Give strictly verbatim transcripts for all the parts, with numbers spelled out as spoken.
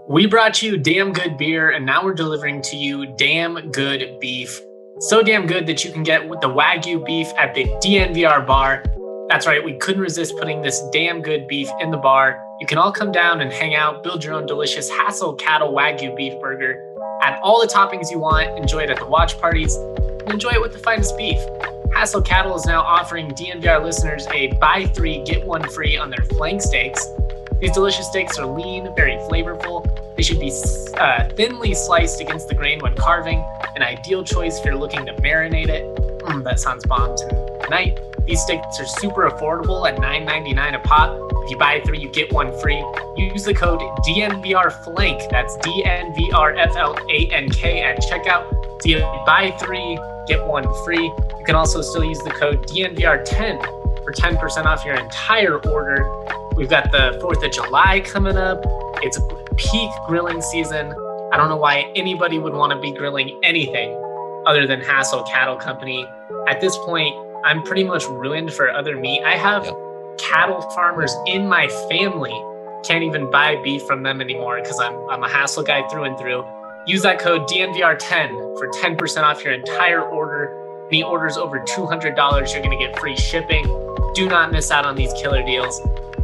We brought you damn good beer, and now we're delivering to you damn good beef. So damn good that you can get with the Wagyu beef at the D N V R bar. That's right, we couldn't resist putting this damn good beef in the bar. You can all come down and hang out, build your own delicious Hassel Cattle Wagyu beef burger. Add all the toppings you want, enjoy it at the watch parties, and enjoy it with the finest beef. Hassel Cattle is now offering D N V R listeners a buy three, get one free on their flank steaks. These delicious steaks are lean, very flavorful. They should be uh, thinly sliced against the grain when carving, an ideal choice if you're looking to marinate it. Mm, that sounds bomb tonight. These steaks are super affordable at nine ninety-nine a pop. If you buy three, you get one free. Use the code D N V R flank, that's D N V R F L A N K at checkout. So you buy three, get one free. You can also still use the code D N V R ten for ten percent off your entire order. We've got the fourth of July coming up. It's peak grilling season. I don't know why anybody would want to be grilling anything other than Hassel Cattle Company. At this point, I'm pretty much ruined for other meat. I have yep. cattle farmers in my family. Can't even buy beef from them anymore because I'm I'm a Hassel guy through and through. Use that code D N V R ten for ten percent off your entire order. Any orders over two hundred dollars, you're going to get free shipping. Do not miss out on these killer deals.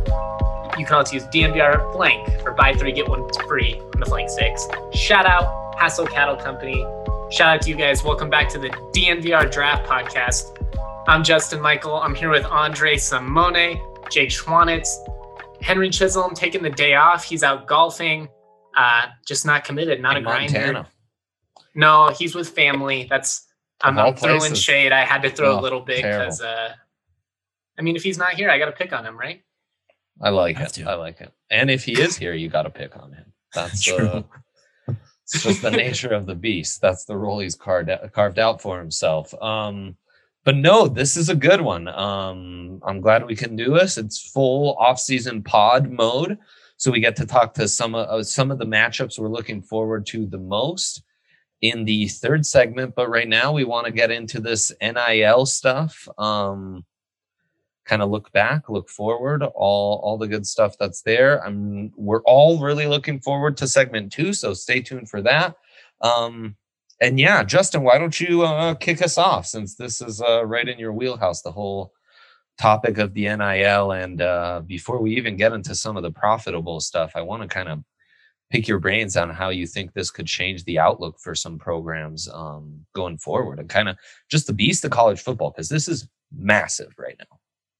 You can also use D N V R flank for buy three, get one free on the flank steaks. Shout out Hassel Cattle Company. Shout out to you guys. Welcome back to the D N V R Draft Podcast. I'm Justin Michael. I'm here with Andre Simone, Jake Schwanitz, Henry Chisholm taking the day off. He's out golfing, uh, just not committed, not In a grinder. Montana. No, he's with family. That's I'm, I'm throwing shade. I had to throw oh, a little bit because, uh, I mean, if he's not here, I got to pick on him, right? I like it. I like it. And if he is here, you got to pick on him. That's uh, it's just the nature of the beast. That's the role he's carved out, carved out for himself. Um, but no, this is a good one. Um, I'm glad we can do this. It's full off-season pod mode, so we get to talk to some of uh, some of the matchups we're looking forward to the most in the third segment. But right now, we want to get into this N I L stuff. Um, kind of look back, look forward, all all the good stuff that's there. I'm we're all really looking forward to segment two, so stay tuned for that. Um, and yeah, Justin, why don't you uh, kick us off, since this is uh, right in your wheelhouse, the whole topic of the N I L. And uh, before we even get into some of the profitable stuff, I want to kind of pick your brains on how you think this could change the outlook for some programs um, going forward, and kind of just the beast of college football, because this is massive right now.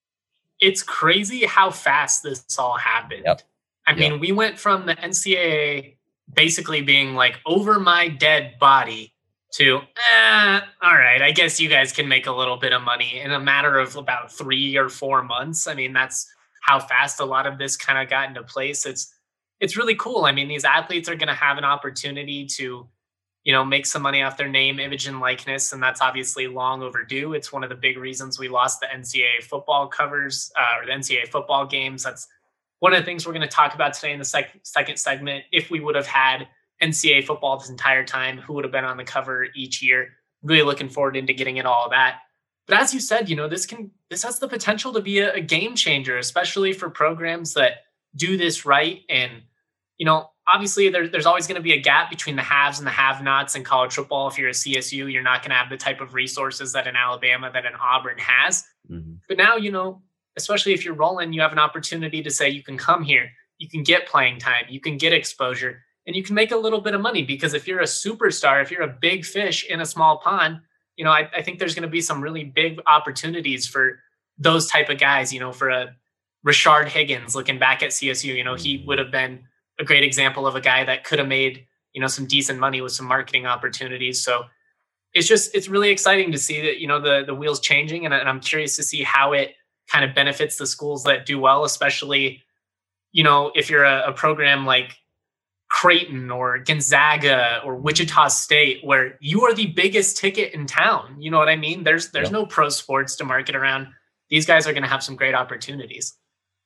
It's crazy how fast this all happened. Yep. I mean, yep. we went from the N C double A basically being like over my dead body to, eh, all right, I guess you guys can make a little bit of money in a matter of about three or four months. I mean, that's how fast a lot of this kind of got into place. It's, it's really cool. I mean, these athletes are going to have an opportunity to, you know, make some money off their name, image, and likeness. And that's obviously long overdue. It's one of the big reasons we lost the N C double A football covers uh, or the N C double A football games. That's one of the things we're going to talk about today in the sec- second segment. If we would have had N C double A football this entire time, who would have been on the cover each year? Really looking forward into getting into all of that. But as you said, you know, this can, this has the potential to be a, a game changer, especially for programs that do this right. And, you know, obviously, there, there's always going to be a gap between the haves and the have-nots in college football. If you're a C S U, you're not going to have the type of resources that an Alabama, that an Auburn has. Mm-hmm. But now, you know, especially if you're rolling, you have an opportunity to say you can come here, you can get playing time, you can get exposure, and you can make a little bit of money. Because if you're a superstar, if you're a big fish in a small pond, you know, I, I think there's going to be some really big opportunities for those type of guys. You know, for a Rashard Higgins, looking back at C S U, you know, he would have been a great example of a guy that could have made, you know, some decent money with some marketing opportunities. So it's just, it's really exciting to see that, you know, the, the wheels changing. And, and I'm curious to see how it kind of benefits the schools that do well, especially, you know, if you're a, a program like Creighton or Gonzaga or Wichita State, where you are the biggest ticket in town. You know what I mean? There's, there's yeah. no pro sports to market around. These guys are going to have some great opportunities.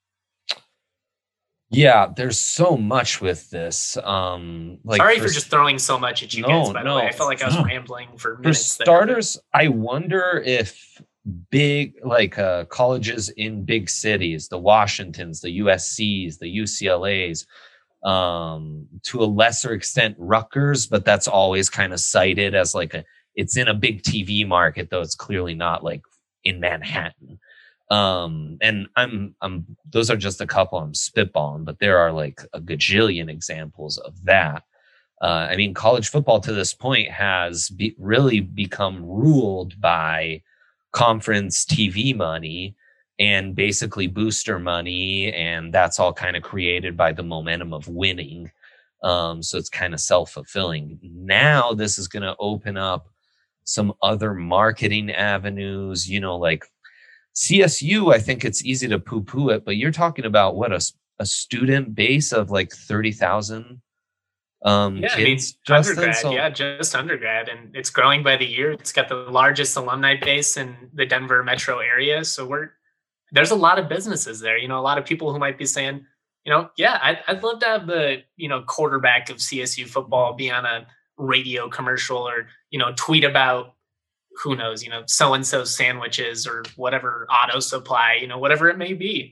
Yeah, there's so much with this. Um, like Sorry for, for just throwing so much at you no, guys, by no, the way. I felt like I was no. rambling for minutes. For starters, there. I wonder if big, like uh, colleges in big cities, the Washingtons, the U S Cs, the U C L As, Um, to a lesser extent, Rutgers, but that's always kind of cited as like a, it's in a big T V market, though it's clearly not like in Manhattan. Um, and I'm, I'm, those are just a couple I'm spitballing, but there are like a gajillion examples of that. Uh, I mean, college football to this point has be, really become ruled by conference T V money and basically booster money. And that's all kind of created by the momentum of winning. Um, so it's kind of self-fulfilling. Now this is going to open up some other marketing avenues, you know, like C S U, I think it's easy to poo-poo it, but you're talking about what, a, a student base of like thirty thousand um, yeah, kids? I mean, undergrad, so, yeah, just undergrad. And it's growing by the year. It's got the largest alumni base in the Denver metro area. So we're, there's a lot of businesses there. You know, a lot of people who might be saying, you know, yeah, I'd, I'd love to have the, you know, quarterback of C S U football be on a radio commercial or, you know, tweet about, who knows, you know, so-and-so sandwiches or whatever auto supply, you know, whatever it may be.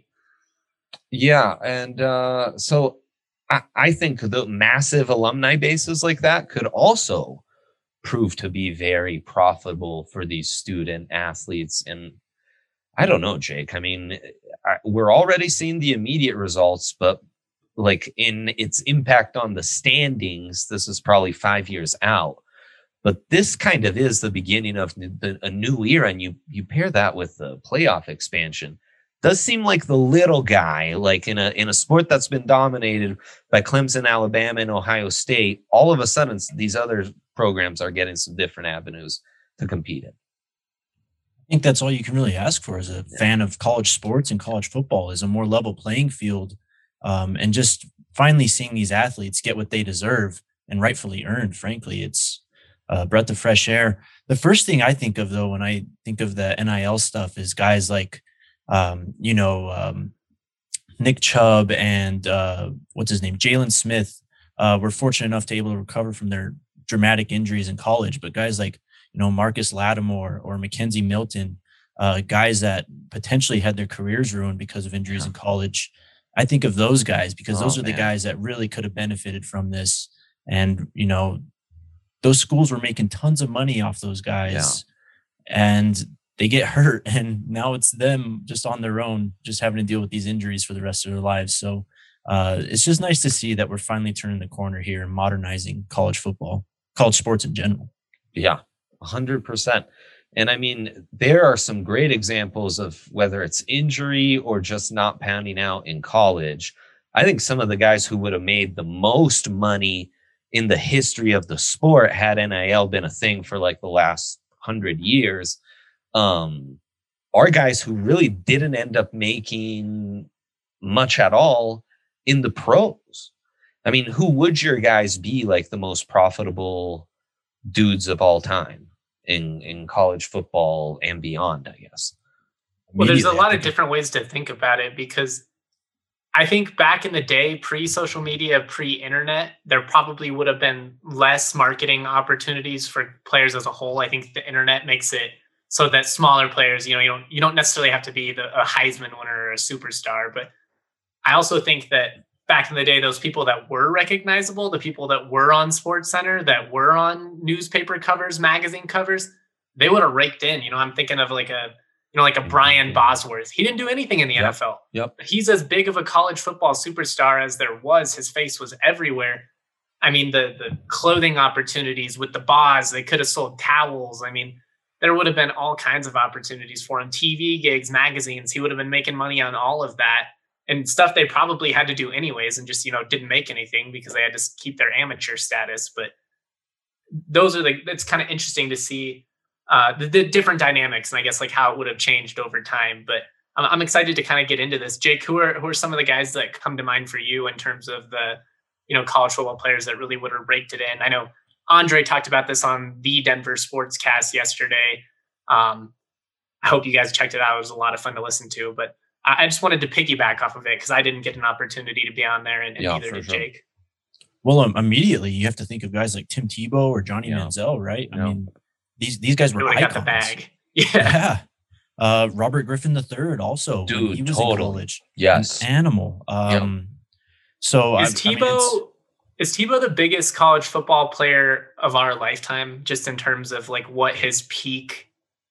Yeah. And uh, so I, I think the massive alumni bases like that could also prove to be very profitable for these student athletes. And I don't know, Jake, I mean, I, we're already seeing the immediate results, but like in its impact on the standings, this is probably five years out. But this kind of is the beginning of the, a new era, and you you pair that with the playoff expansion. Does seem like the little guy, like in a in a sport that's been dominated by Clemson, Alabama, and Ohio State, all of a sudden these other programs are getting some different avenues to compete in. I think that's all you can really ask for as a yeah. fan of college sports and college football, is a more level playing field, um, and just finally seeing these athletes get what they deserve and rightfully earned. Frankly, it's a breath of fresh air. The first thing I think of, though, when I think of the N I L stuff is guys like, um, you know, um, Nick Chubb and uh, what's his name? Jalen Smith uh, were fortunate enough to be able to recover from their dramatic injuries in college. But guys like, you know, Marcus Lattimore or Mackenzie Milton, uh, guys that potentially had their careers ruined because of injuries yeah. in college. I think of those guys because oh, those are man. the guys that really could have benefited from this. And, you know, those schools were making tons of money off those guys yeah. and they get hurt. And now it's them just on their own, just having to deal with these injuries for the rest of their lives. So uh, it's just nice to see that we're finally turning the corner here and modernizing college football, college sports in general. Yeah, one hundred percent. And I mean, there are some great examples of whether it's injury or just not pounding out in college. I think some of the guys who would have made the most money in the history of the sport, had N I L been a thing for like the last hundred years, um, are guys who really didn't end up making much at all in the pros. I mean, who would your guys be like the most profitable dudes of all time in, in college football and beyond, I guess? Well, there's a lot of different ways to think about it, because I think back in the day, pre-social media, pre-internet, there probably would have been less marketing opportunities for players as a whole. I think the internet makes it so that smaller players, you know, you don't you don't necessarily have to be the, a Heisman winner or a superstar. But I also think that back in the day, those people that were recognizable, the people that were on SportsCenter, that were on newspaper covers, magazine covers, they would have raked in. You know, I'm thinking of like a You know, like a Brian Bosworth. He didn't do anything in the yep. N F L. Yep. He's as big of a college football superstar as there was. His face was everywhere. I mean, the the clothing opportunities with the Boz, they could have sold towels. I mean, there would have been all kinds of opportunities for him. T V gigs, magazines. He would have been making money on all of that and stuff they probably had to do anyways and just, you know, didn't make anything because they had to keep their amateur status. But those are the, it's kind of interesting to see Uh, the, the different dynamics and I guess like how it would have changed over time. But I'm, I'm excited to kind of get into this. Jake, who are who are some of the guys that come to mind for you in terms of the, you know, college football players that really would have raked it in? I know Andre talked about this on the Denver Sportscast yesterday. Um, I hope you guys checked it out. It was a lot of fun to listen to, but I, I just wanted to piggyback off of it because I didn't get an opportunity to be on there, and, and yeah, neither did sure. Jake. Well, um, immediately you have to think of guys like Tim Tebow or Johnny yeah. Manziel, right? Yeah. I mean, These these guys were really icons. got the bag. Yeah. yeah. Uh, Robert Griffin the third also. Dude, he was totally. in college. Yes. An animal. Um, So is I, Tebow I mean, is Tebow the biggest college football player of our lifetime, just in terms of like what his peak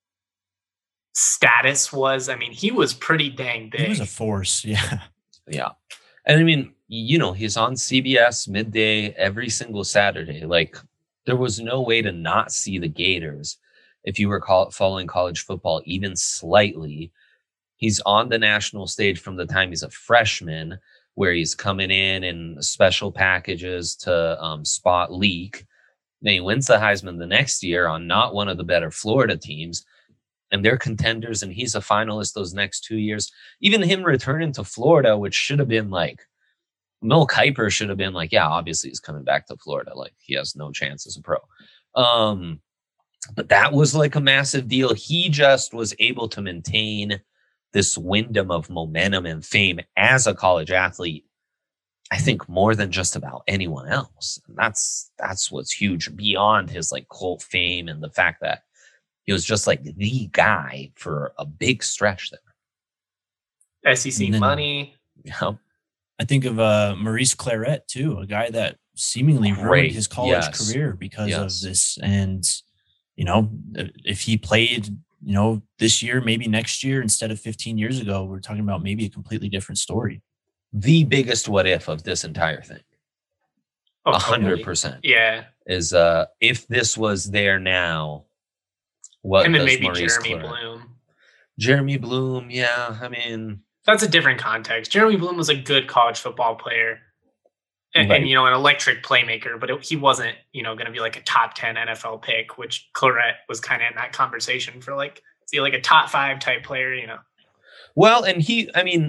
status was? I mean, he was pretty dang big. He was a force. Yeah. Yeah. And I mean, you know, he's on C B S midday every single Saturday. Like, there was no way to not see the Gators if you were call- following college football even slightly. He's on the national stage from the time he's a freshman, where he's coming in in special packages to um, spot leak. Then he wins the Heisman the next year on not one of the better Florida teams, and they're contenders, and he's a finalist those next two years. Even him returning to Florida, which should have been like, Mel Kiper should have been like, yeah, obviously he's coming back to Florida. Like, he has no chance as a pro. Um, but that was like a massive deal. He just was able to maintain this Wyndham of momentum and fame as a college athlete, I think, more than just about anyone else. And that's that's what's huge beyond his like cult fame and the fact that he was just like the guy for a big stretch there. S E C then, money. Yeah. I think of uh, Maurice Claret too, a guy that seemingly ruined Great. his college Yes. career because Yes. of this. And, you know, if he played, you know, this year, maybe next year, instead of fifteen years ago, we're talking about maybe a completely different story. The biggest what if of this entire thing, Oh, a hundred totally. percent, Yeah. is uh, if this was there now, what Him and does maybe Maurice Jeremy Claret- Bloom. Jeremy Bloom, yeah. I mean, That's a different context. Jeremy Bloom was a good college football player and, Right. and you know, an electric playmaker, but it, he wasn't, you know, going to be like a top ten N F L pick, which Claret was kind of in that conversation for like, see, like a top five type player, you know. well, and he, I mean,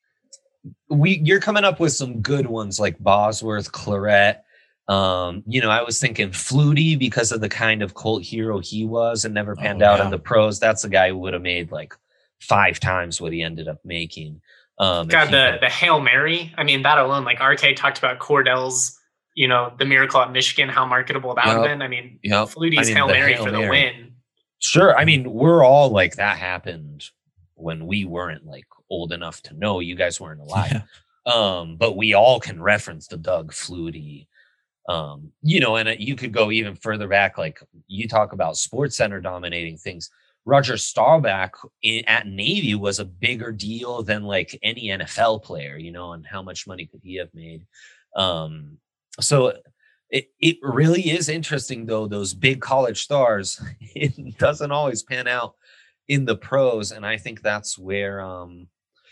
we you're coming up with some good ones like Bosworth, Claret. Um, you know, I was thinking Flutie because of the kind of cult hero he was and never panned Oh, out yeah. in the pros. That's a guy who would have made like five times what he ended up making. Um, if God, he the, had- the Hail Mary. I mean, that alone, like R K talked about Cordell's, you know, the miracle at Michigan, how marketable that would Yep. have been. I mean, Yep. Flutie's I mean, Hail the Mary Hail for the Mary. win. Sure. I mean, we're all like, that happened when we weren't like old enough to know. You guys weren't alive. Yeah. Um, but we all can reference the Doug Flutie. Um, you know, and uh, you could go even further back. Like, you talk about Sports Center dominating things. Roger Staubach in, at Navy was a bigger deal than like any N F L player, you know, and how much money could he have made? Um, so it, it really is interesting, though, those big college stars, it doesn't always pan out in the pros. And I think that's where, um,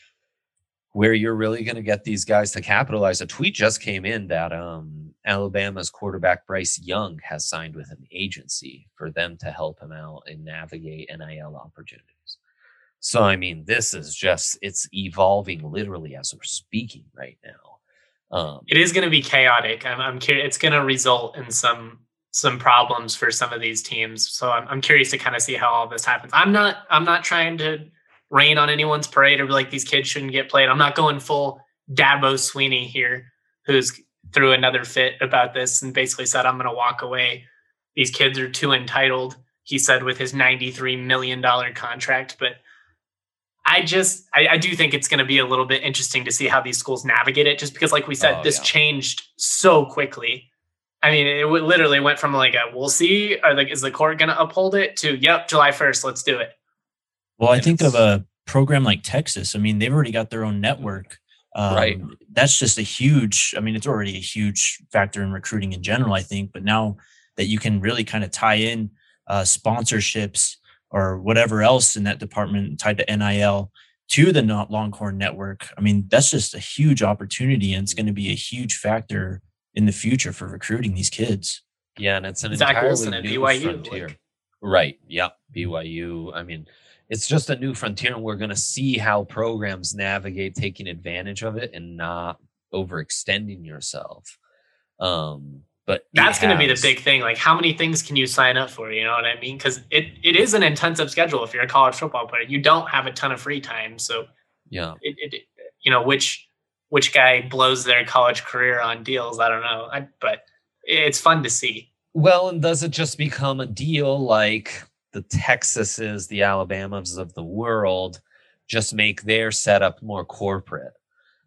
where you're really going to get these guys to capitalize. A tweet just came in that um, Alabama's quarterback Bryce Young has signed with an agency for them to help him out and navigate N I L opportunities. So, I mean, this is just, it's evolving literally as we're speaking right now. Um, It is going to be chaotic. I'm, I'm curious. It's going to result in some some problems for some of these teams. So I'm, I'm curious to kind of see how all this happens. I'm not I'm not trying to rain on anyone's parade or be like these kids shouldn't get played. I'm not going full Dabo Sweeney here, who's threw another fit about this and basically said, I'm going to walk away. These kids are too entitled, he said, with his ninety-three million dollars contract. But I just, I, I do think it's going to be a little bit interesting to see how these schools navigate it, just because, like we said, Oh, this yeah. changed so quickly. I mean, it w- literally went from like a, we'll see, or like, is the court going to uphold it, to, yep, July first, let's do it. Well, I And think of it's- a program like Texas. I mean, they've already got their own network. Um, Right. That's just a huge, I mean, it's already a huge factor in recruiting in general, I think. But now that you can really kind of tie in uh, sponsorships or whatever else in that department tied to N I L to the not Longhorn network, I mean, that's just a huge opportunity. And it's going to be a huge factor in the future for recruiting these kids. Yeah, and it's an Zach entirely Wilson at new B Y U, frontier. like- Right. Yep. B Y U. I mean, it's just a new frontier, and we're going to see how programs navigate taking advantage of it and not overextending yourself. Um, but it That's going to be the has- big thing. Like, how many things can you sign up for? You know what I mean? Because it, it is an intensive schedule. If you're a college football player, you don't have a ton of free time. So, Yeah. it, it you know, which which guy blows their college career on deals? I don't know. I, but it's fun to see. Well, and does it just become a deal like the Texases, the Alabamas of the world, just make their setup more corporate?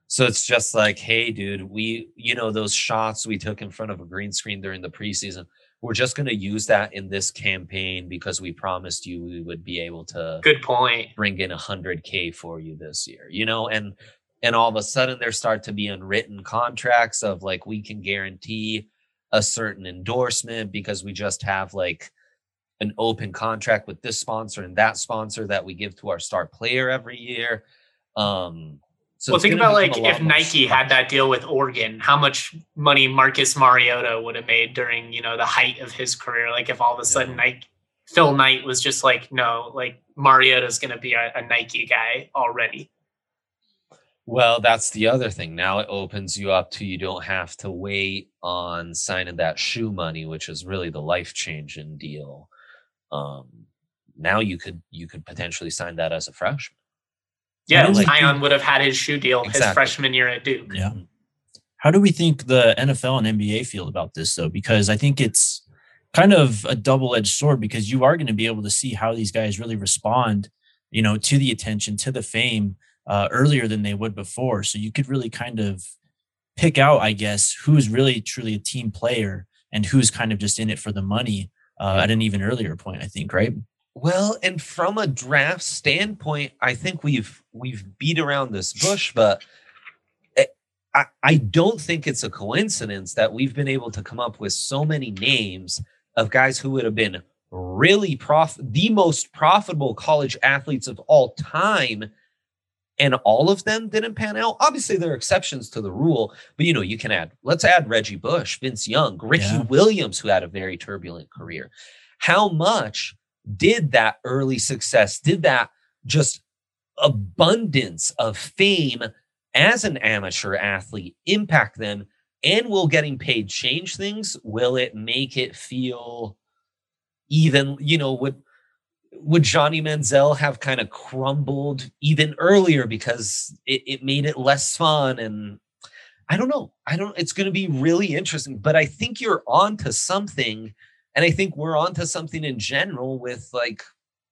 So it's just like, hey, dude, we, you know, those shots we took in front of a green screen during the preseason, we're just going to use that in this campaign because we promised you we would be able to good point bring in one hundred K for you this year, you know, and and all of a sudden there start to be unwritten contracts of like, we can guarantee a certain endorsement because we just have like an open contract with this sponsor and that sponsor that we give to our star player every year. Um, so well, think about like if Nike had that deal with Oregon, how much money Marcus Mariota would have made during, you know, the height of his career. Like if all of a sudden yeah. Nike, Phil Knight was just like, no, like Mariota's going to be a, a Nike guy already. Well, that's the other thing. Now it opens you up to, you don't have to wait on signing that shoe money, which is really the life-changing deal. Um, now you could, you could potentially sign that as a freshman. Yeah, like, Zion would have had his shoe deal exactly. his freshman year at Duke. Yeah. How do we think the N F L and N B A feel about this, though? Because I think it's kind of a double-edged sword because you are going to be able to see how these guys really respond, you know, to the attention, to the fame uh, earlier than they would before. So you could really kind of pick out, I guess, who's really truly a team player and who's kind of just in it for the money uh, yeah. at an even earlier point, I think, right? Well, and from a draft standpoint, I think we've we've beat around this bush, but I, I don't think it's a coincidence that we've been able to come up with so many names of guys who would have been really prof the most profitable college athletes of all time, and all of them didn't pan out. Obviously, there are exceptions to the rule, but you know, you can add, let's add Reggie Bush, Vince Young, Ricky yeah. Williams, who had a very turbulent career. How much did that early success, did that just abundance of fame as an amateur athlete impact them? And will getting paid change things? Will it make it feel even, you know, would, would Johnny Manziel have kind of crumbled even earlier because it, it made it less fun? And I don't know. I don't, it's going to be really interesting, but I think you're on to something. And I think we're on to something in general with like,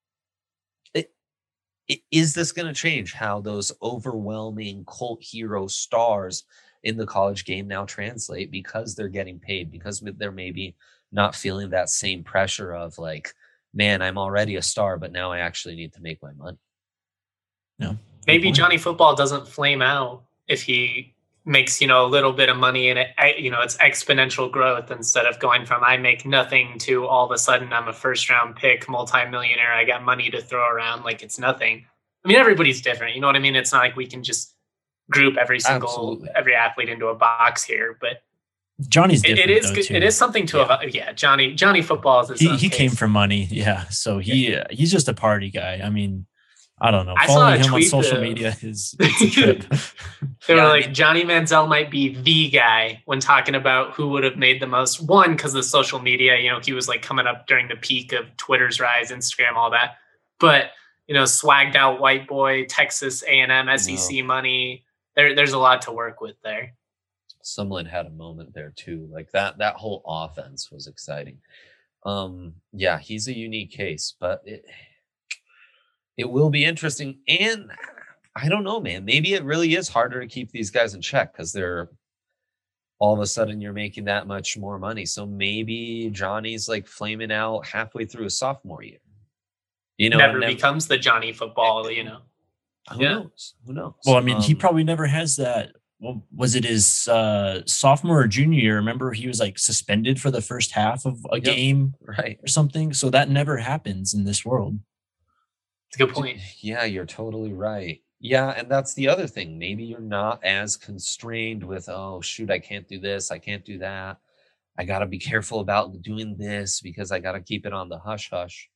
it, it, is this going to change how those overwhelming cult hero stars in the college game now translate because they're getting paid, because they're maybe not feeling that same pressure of like, man, I'm already a star, but now I actually need to make my money. No, maybe Johnny Football doesn't flame out if he makes, you know, a little bit of money and it, you know, it's exponential growth instead of going from I make nothing to all of a sudden I'm a first round pick, multimillionaire. I got money to throw around like it's nothing. I mean, everybody's different. You know what I mean? It's not like we can just group every single, Absolutely. every athlete into a box here, but Johnny's different. It, it is though, too. It is something to, yeah, yeah Johnny, Johnny Football is, he, he came from money. Yeah. So he, yeah. Uh, he's just a party guy. I mean, I don't know. I Following saw a him on social that, media is it's a trip. They yeah, were I like, mean, Johnny Manziel might be the guy when talking about who would have made the most. One, because of social media, you know, he was like coming up during the peak of Twitter's rise, Instagram, all that. But, you know, swagged out white boy, Texas A and M, S E C no. money. There, there's a lot to work with there. Sumlin had a moment there too. Like that, that whole offense was exciting. Um, yeah, he's a unique case, but it, it will be interesting. And I don't know, man, maybe it really is harder to keep these guys in check because they're all of a sudden you're making that much more money. So maybe Johnny's like flaming out halfway through his sophomore year. You know, never, never becomes the Johnny Football, you know. Who yeah. knows? Who knows? Well, I mean, um, he probably never has that. Well, was it his uh, sophomore or junior year? Remember, he was like suspended for the first half of a yep, game, right, or something. So that never happens in this world. It's a good point. Yeah, you're totally right. Yeah, and that's the other thing. Maybe you're not as constrained with, oh, shoot, I can't do this. I can't do that. I got to be careful about doing this because I got to keep it on the hush hush.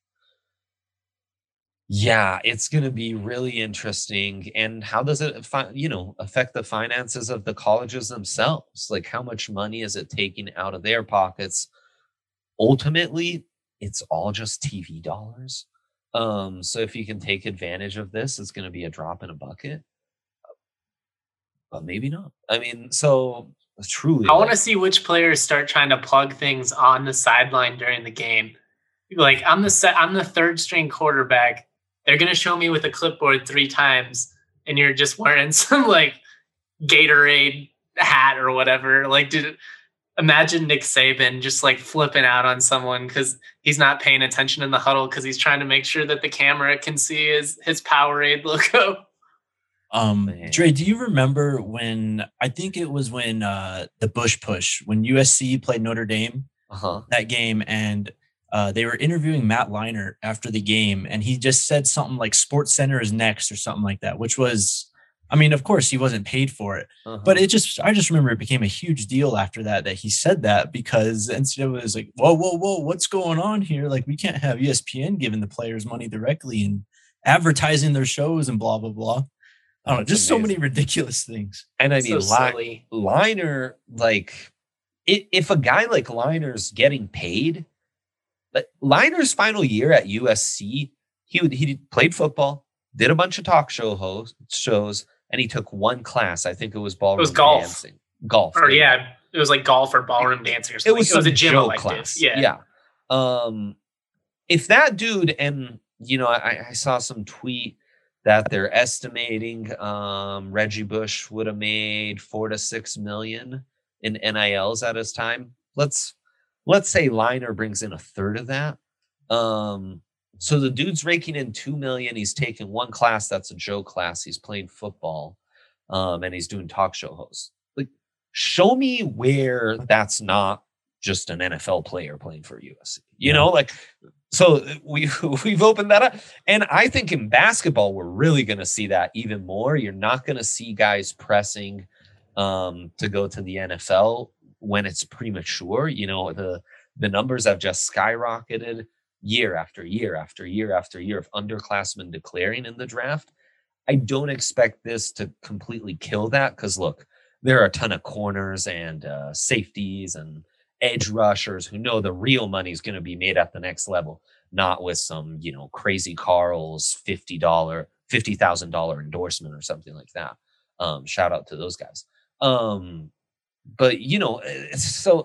Yeah, it's going to be really interesting. And how does it, you know, affect the finances of the colleges themselves? Like, how much money is it taking out of their pockets? Ultimately, it's all just T V dollars. Um, so if you can take advantage of this, it's going to be a drop in a bucket. But maybe not. I mean, so truly, I like, want to see which players start trying to plug things on the sideline during the game. Like, I'm the set, I'm the third string quarterback. They're going to show me with a clipboard three times, and you're just wearing some, like, Gatorade hat or whatever. Like, did imagine Nick Saban just like flipping out on someone because he's not paying attention in the huddle because he's trying to make sure that the camera can see his his Powerade logo. Um, Dre, do you remember when I think it was when uh, the Bush Push when U S C played Notre Dame uh-huh. that game, and uh, they were interviewing Matt Leinart after the game, and he just said something like "Sports Center is next" or something like that, which was, I mean, of course he wasn't paid for it, uh-huh. but it just, I just remember it became a huge deal after that that he said that because N C double A was like, whoa, whoa, whoa, what's going on here? Like, we can't have E S P N giving the players money directly and advertising their shows and blah blah blah. I don't know, just amazing. So many ridiculous things. And I mean, so Li- Leinart, like, it, if a guy like Leinart's getting paid, like Leinart's final year at U S C, he would, he played football, did a bunch of talk show host, shows, and he took one class. I think it was ballroom it was golf. dancing. Golf. Or yeah. yeah, it was like golf or ballroom dancing or something. It was, it was a gym elective. Class. Yeah. Yeah. Um, if that dude, and, you know, I, I saw some tweet that they're estimating um, Reggie Bush would have made four to six million in N I Ls at his time. Let's let's say Leinart brings in a third of that. Um, so the dude's raking in two million. He's taking one class that's a Joe class. He's playing football, um, and he's doing talk show hosts. Like, show me where that's not just an N F L player playing for U S C. You know, like. So we, we've opened that up. And I think in basketball, we're really going to see that even more. You're not going to see guys pressing um, to go to the N F L when it's premature. You know, the, the numbers have just skyrocketed year after year after year after year of underclassmen declaring in the draft. I don't expect this to completely kill that because, look, there are a ton of corners and uh, safeties and edge rushers who know the real money is going to be made at the next level, not with some, you know, crazy Carl's fifty dollars, fifty thousand dollars endorsement or something like that. Um, shout out to those guys. Um, but, you know, it's so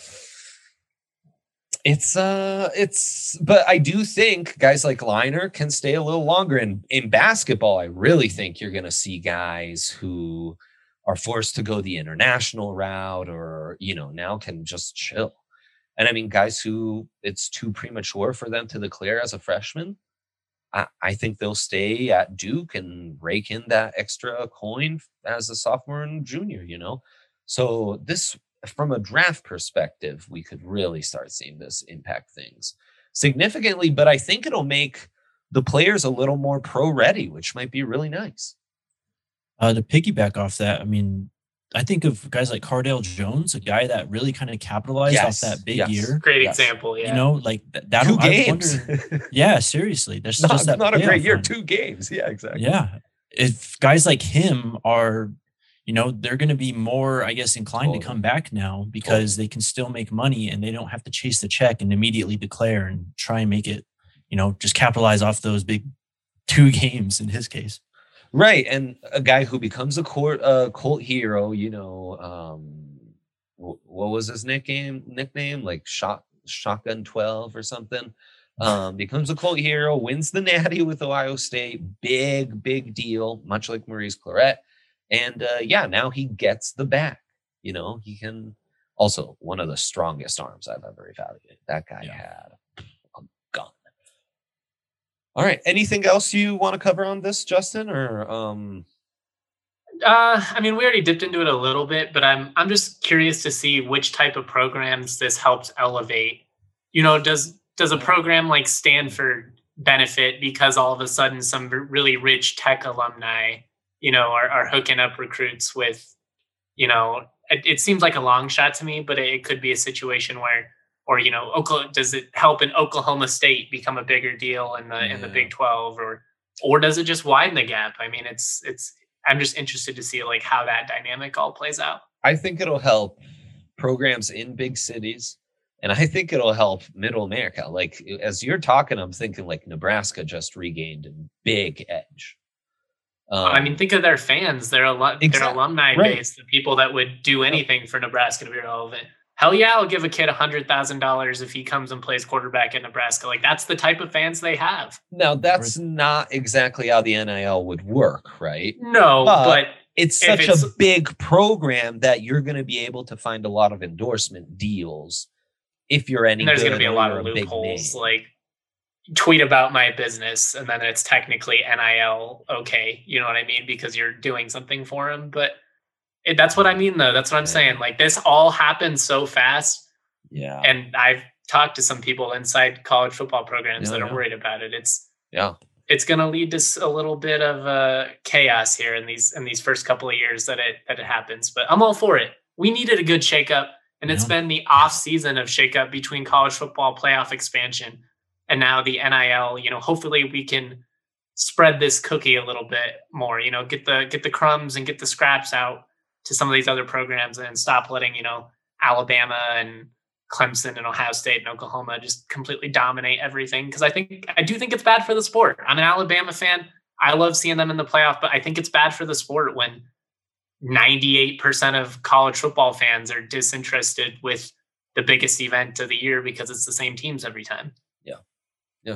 it's, uh, it's, but I do think guys like Leinart can stay a little longer. And in basketball, I really think you're going to see guys who are forced to go the international route or, you know, now can just chill. And I mean, guys who it's too premature for them to declare as a freshman, I, I think they'll stay at Duke and rake in that extra coin as a sophomore and junior, you know? So this, from a draft perspective, we could really start seeing this impact things significantly, but I think it'll make the players a little more pro ready, which might be really nice. Uh, to piggyback off that, I mean, I think of guys like Cardale Jones, a guy that really kind of capitalized yes, off that big yes. year. Great yes. example, yeah. You know, like that. that two I games. Wonder, yeah, seriously. There's not, just that not a great year. Run. Two games. Yeah, exactly. Yeah. If guys like him are, you know, they're going to be more, I guess, inclined totally. to come back now because totally. they can still make money and they don't have to chase the check and immediately declare and try and make it, you know, just capitalize off those big two games in his case. Right. And a guy who becomes a court, uh, cult hero, you know, um, w- what was his nickname, nickname? Like shot, Shotgun twelve or something. Um, becomes a cult hero, wins the Natty with Ohio State. Big, big deal, much like Maurice Claret. And uh, yeah, now he gets the back. You know, he can also one of the strongest arms I've ever evaluated. That guy yeah. had a gun. All right. Anything else you want to cover on this, Justin? Or um uh I mean, we already dipped into it a little bit, but I'm I'm just curious to see which type of programs this helps elevate. You know, does does a program like Stanford benefit because all of a sudden some really rich tech alumni, you know, are, are hooking up recruits with, you know, it, it seems like a long shot to me, but it, it could be a situation where, or, you know, Oklahoma, does it help in Oklahoma State become a bigger deal in the, yeah. in the Big twelve, or, or does it just widen the gap? I mean, it's, it's, I'm just interested to see like how that dynamic all plays out. I think it'll help programs in big cities. And I think it'll help middle America. Like as you're talking, I'm thinking like Nebraska just regained a big edge. Um, I mean, think of their fans, their, al- exactly. their alumni right. base, the people that would do anything for Nebraska to be relevant. Hell yeah, I'll give a kid one hundred thousand dollars if he comes and plays quarterback in Nebraska. Like, that's the type of fans they have. Now, that's not exactly how the N I L would work, right? No, but, but it's such it's, a big program that you're going to be able to find a lot of endorsement deals if you're any. And there's going to be a lot of loopholes, like tweet about my business, and then it's technically N I L okay, you know what I mean, because you're doing something for them. But it, that's what I mean, though. That's what I'm yeah. saying. Like this all happened so fast. Yeah, and I've talked to some people inside college football programs yeah, that are yeah. worried about it. It's yeah. It's going to lead to a little bit of uh, chaos here in these in these first couple of years that it that it happens. But I'm all for it. We needed a good shakeup, and yeah. it's been the off season of shakeup between college football playoff expansion and now the N I L. You know, hopefully we can spread this cookie a little bit more. You know, get the get the crumbs and get the scraps out to some of these other programs, and stop letting you know Alabama and Clemson and Ohio State and Oklahoma just completely dominate everything. Because I think I do think it's bad for the sport. I'm an Alabama fan. I love seeing them in the playoff, but I think it's bad for the sport when ninety-eight percent of college football fans are disinterested with the biggest event of the year because it's the same teams every time. Yeah. Yeah.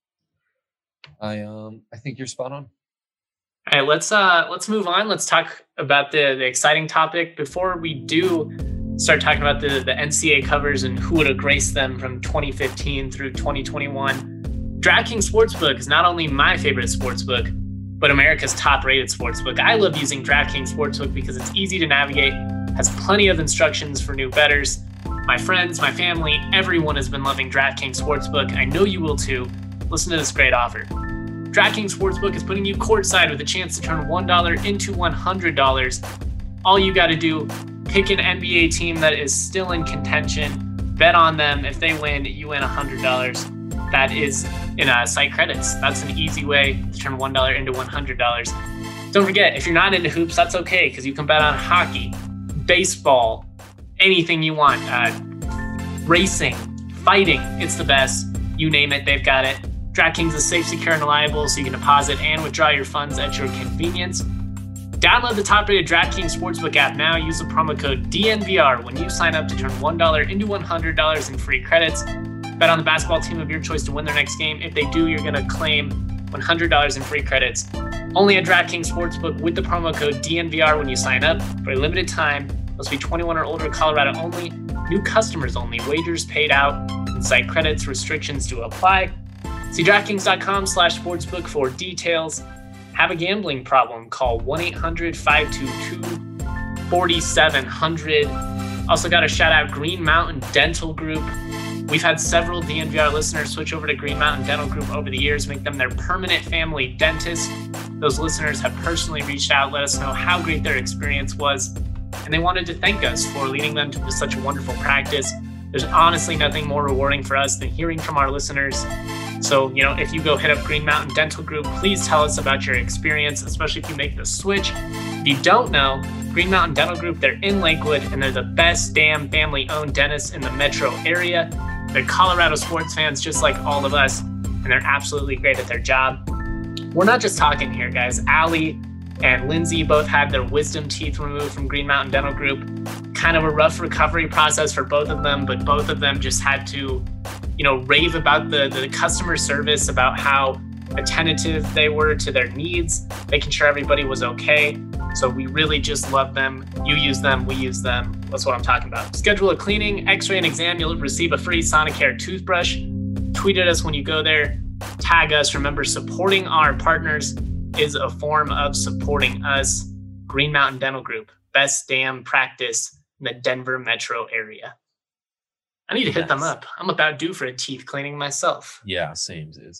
I um I think you're spot on. All right, let's uh let's move on. Let's talk about the, the exciting topic. Before we do start talking about the, the N C A A covers and who would have graced them from twenty fifteen through twenty twenty-one. DraftKings Sportsbook is not only my favorite sportsbook, but America's top-rated sportsbook. I love using DraftKings Sportsbook because it's easy to navigate, has plenty of instructions for new bettors. My friends, my family, everyone has been loving DraftKings Sportsbook. I know you will too. Listen to this great offer. DraftKings Sportsbook is putting you courtside with a chance to turn one dollar into one hundred dollars. All you got to do, pick an N B A team that is still in contention, bet on them. If they win, you win one hundred dollars. That is in uh, site credits. That's an easy way to turn one dollar into one hundred dollars. Don't forget, if you're not into hoops, that's okay, because you can bet on hockey, baseball, anything you want. Uh, racing, fighting, it's the best. You name it, they've got it. DraftKings is safe, secure, and reliable, so you can deposit and withdraw your funds at your convenience. Download the top-rated DraftKings Sportsbook app now. Use the promo code D N V R when you sign up to turn one dollar into one hundred dollars in free credits. Bet on the basketball team of your choice to win their next game. If they do, you're going to claim one hundred dollars in free credits. Only at DraftKings Sportsbook with the promo code D N V R when you sign up. For a limited time, must be twenty-one or older, Colorado only. New customers only. Wagers paid out. And site credits. Restrictions to apply. See DraftKings.com slash sportsbook for details. Have a gambling problem? Call one eight hundred five two two four seven zero zero. Also got to shout out Green Mountain Dental Group. We've had several D N V R listeners switch over to Green Mountain Dental Group over the years, make them their permanent family dentist. Those listeners have personally reached out, let us know how great their experience was, and they wanted to thank us for leading them to such a wonderful practice. There's honestly nothing more rewarding for us than hearing from our listeners. So, you know, if you go hit up Green Mountain Dental Group, please tell us about your experience, especially if you make the switch. If you don't know, Green Mountain Dental Group, they're in Lakewood, and they're the best damn family-owned dentists in the metro area. They're Colorado sports fans just like all of us, and they're absolutely great at their job. We're not just talking here, guys. Allie and Lindsay both had their wisdom teeth removed from Green Mountain Dental Group. Kind of a rough recovery process for both of them, but both of them just had to, you know, rave about the, the customer service, about how attentive they were to their needs, making sure everybody was okay. So we really just love them. You use them, we use them. That's what I'm talking about. Schedule a cleaning, x-ray, and exam. You'll receive a free Sonicare toothbrush. Tweet at us when you go there. Tag us. Remember, supporting our partners is a form of supporting us. Green Mountain Dental Group, best damn practice in the Denver metro area. I need to hit yes. them up. I'm about due for a teeth cleaning myself. Yeah, same is.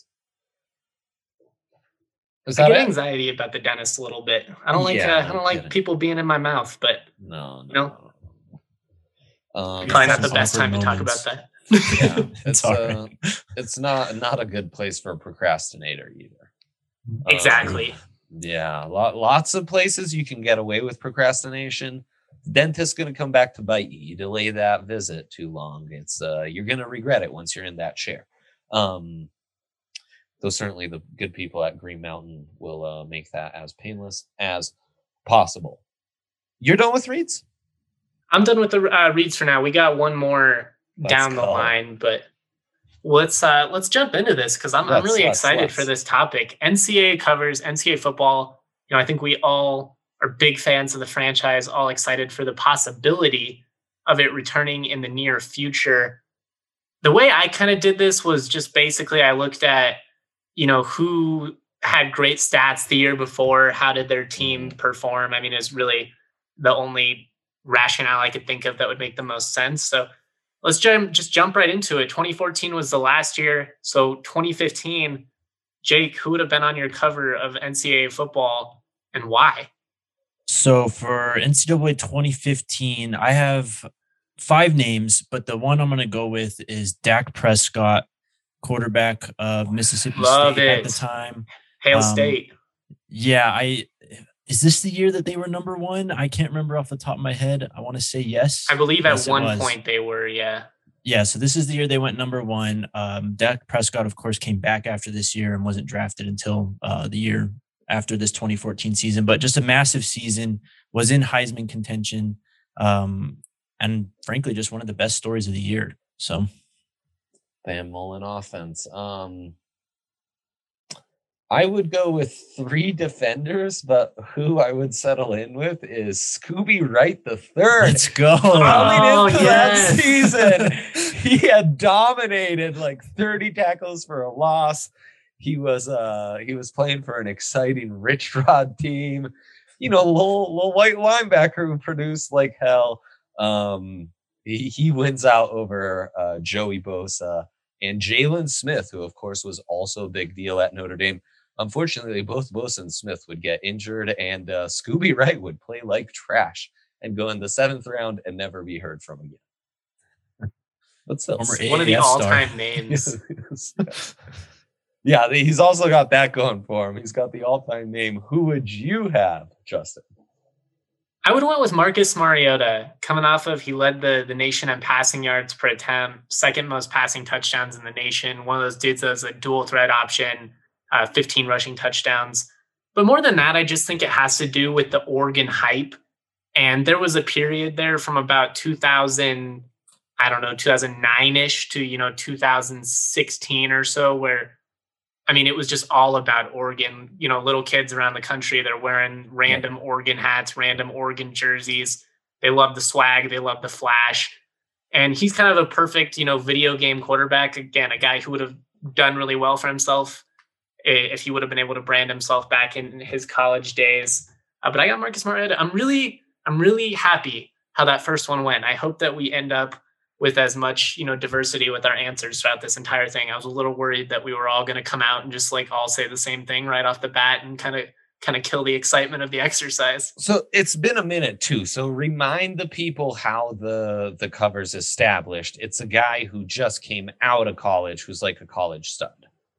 Is I get it? anxiety about the dentist a little bit. I don't like yeah, uh, I don't no like kidding. people being in my mouth, but no, no, you know, no, no. Um, probably not the best time moments. to talk about that. Yeah, it's uh, it's not not a good place for a procrastinator either. Exactly. Um, yeah, lot, lots of places you can get away with procrastination. The dentist's going to come back to bite you. You delay that visit too long, it's uh, you're going to regret it once you're in that chair. Um, Though certainly the good people at Green Mountain will uh, make that as painless as possible. You're done with reads? I'm done with the uh, reads for now. We got one more let's down the line, but let's uh, let's jump into this because I'm, I'm really let's, excited let's. for this topic. N C A A covers, N C A A football. You know, I think we all are big fans of the franchise, all excited for the possibility of it returning in the near future. The way I kind of did this was just basically I looked at, you know, who had great stats the year before, how did their team perform? I mean, it's really the only rationale I could think of that would make the most sense. So let's jump, just jump right into it. twenty fourteen was the last year. So twenty fifteen, Jake, who would have been on your cover of N C double A football and why? So for N C double A twenty fifteen, I have five names, but the one I'm going to go with is Dak Prescott, quarterback of Mississippi Love State it. at the time. Hail Um, State. Yeah, I is this the year that they were number one? I can't remember off the top of my head. I want to say yes. I believe Yes, at it one was. point they were, yeah. Yeah, so this is the year they went number one. Um, Dak Prescott, of course, came back after this year and wasn't drafted until uh, the year after this twenty fourteen season. But just a massive season, was in Heisman contention, um, and frankly, just one of the best stories of the year. So, Van Mullen offense. Um, I would go with three defenders, but who I would settle in with is Scooby Wright the third. let's go. Coming Oh, into yes. that season, he had dominated like thirty tackles for a loss. He was uh he was playing for an exciting Rich Rod team, you know, little little white linebacker who produced like hell. Um, he, he wins out over uh, Joey Bosa and Jalen Smith, who of course was also a big deal at Notre Dame. Unfortunately, both Bosa and Smith would get injured, and uh, Scooby Wright would play like trash and go in the seventh round and never be heard from again. What's that? Former One of the A A F star. all-time names. Yeah, he's also got that going for him. He's got the all-time name. Who would you have, Justin? I would have went with Marcus Mariota, coming off of he led the, the nation in passing yards per attempt, second most passing touchdowns in the nation. One of those dudes that was a dual threat option, uh, fifteen rushing touchdowns. But more than that, I just think it has to do with the Oregon hype. And there was a period there from about two thousand, I don't know, two thousand nine-ish to, you know, two thousand sixteen or so, where I mean, it was just all about Oregon. You know, little kids around the country, they're wearing random yeah. Oregon hats, random Oregon jerseys. They love the swag. They love the flash. And he's kind of a perfect, you know, video game quarterback. Again, a guy who would have done really well for himself if he would have been able to brand himself back in his college days. Uh, but I got Marcus Mariota. I'm really, I'm really happy how that first one went. I hope that we end up with as much, you know, diversity with our answers throughout this entire thing. I was a little worried that we were all going to come out and just like all say the same thing right off the bat and kind of kind of kill the excitement of the exercise. So it's been a minute too. So remind the people how the the cover's established. It's a guy who just came out of college who's like a college stud.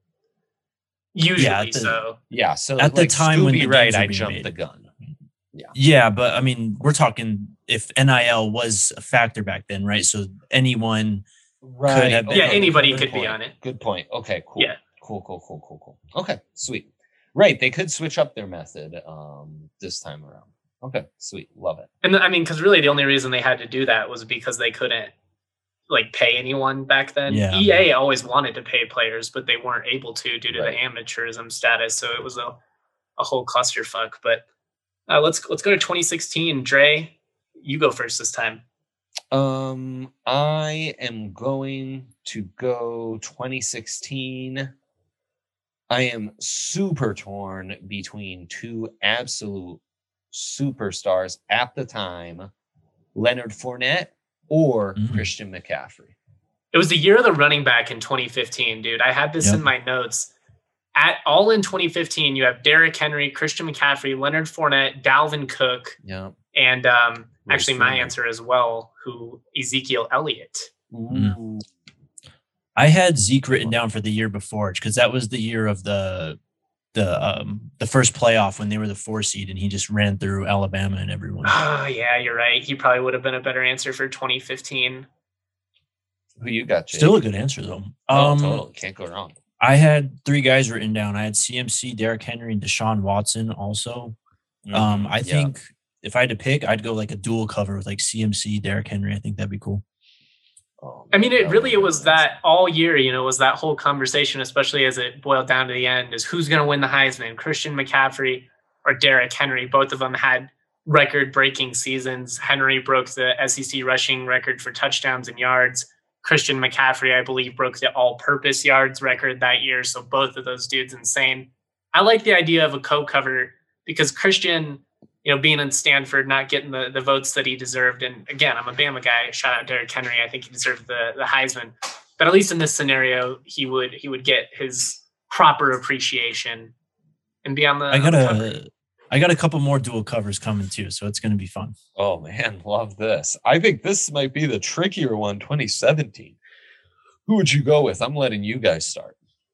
Usually Yeah, the- so. Yeah. So At the like time when Scooby the Wright, games were I being jumped made. the gun. Yeah, but I mean, we're talking if N I L was a factor back then, right? So anyone Right. have been- Yeah, Okay, anybody good could be point. on it. Good point. Okay, cool. Yeah. Cool, cool, cool, cool, cool. Okay, sweet. Right. They could switch up their method um this time around. Okay, sweet. Love it. And I mean, because really the only reason they had to do that was because they couldn't like pay anyone back then. Yeah. E A always wanted to pay players, but they weren't able to due to Right. the amateurism status. So it was a, a whole clusterfuck. But uh, let's let's go to twenty sixteen. Dre, you go first this time. Um, I am going to go twenty sixteen. I am super torn between two absolute superstars at the time, Leonard Fournette or Mhm. Christian McCaffrey. It was the year of the running back in twenty fifteen, dude. I had this Yep. in my notes. At all in twenty fifteen, you have Derrick Henry, Christian McCaffrey, Leonard Fournette, Dalvin Cook, Yeah. and um, Right, actually my Fournette. answer as well, who Ezekiel Elliott. Ooh. I had Zeke written down for the year before because that was the year of the the um the first playoff when they were the four seed and he just ran through Alabama and everyone. Oh, yeah, you're right. He probably would have been a better answer for twenty fifteen. Who you got, Jake? Still a good answer though. Oh, Um, totally. Can't go wrong. I had three guys written down. I had C M C, Derrick Henry, and Deshaun Watson also. Um, I Yeah. think if I had to pick, I'd go like a dual cover with like C M C, Derrick Henry. I think that'd be cool. Oh, I mean, man, it that really it would've was been that all year, you know, was that whole conversation, especially as it boiled down to the end, is who's going to win the Heisman, Christian McCaffrey or or Derrick Henry. Both of them had record-breaking seasons. Henry broke the S E C rushing record for touchdowns and yards. Christian McCaffrey, I believe, broke the all-purpose yards record that year. So both of those dudes insane. I like the idea of a co-cover because Christian, you know, being in Stanford, not getting the, the votes that he deserved. And again, I'm a Bama guy. Shout out Derrick Henry. I think he deserved the, the Heisman. But at least in this scenario, he would he would get his proper appreciation and be on the. I got on the a, cover. I got a couple more dual covers coming too, so it's going to be fun. Oh man, love this. I think this might be the trickier one, twenty seventeen. Who would you go with? I'm letting you guys start.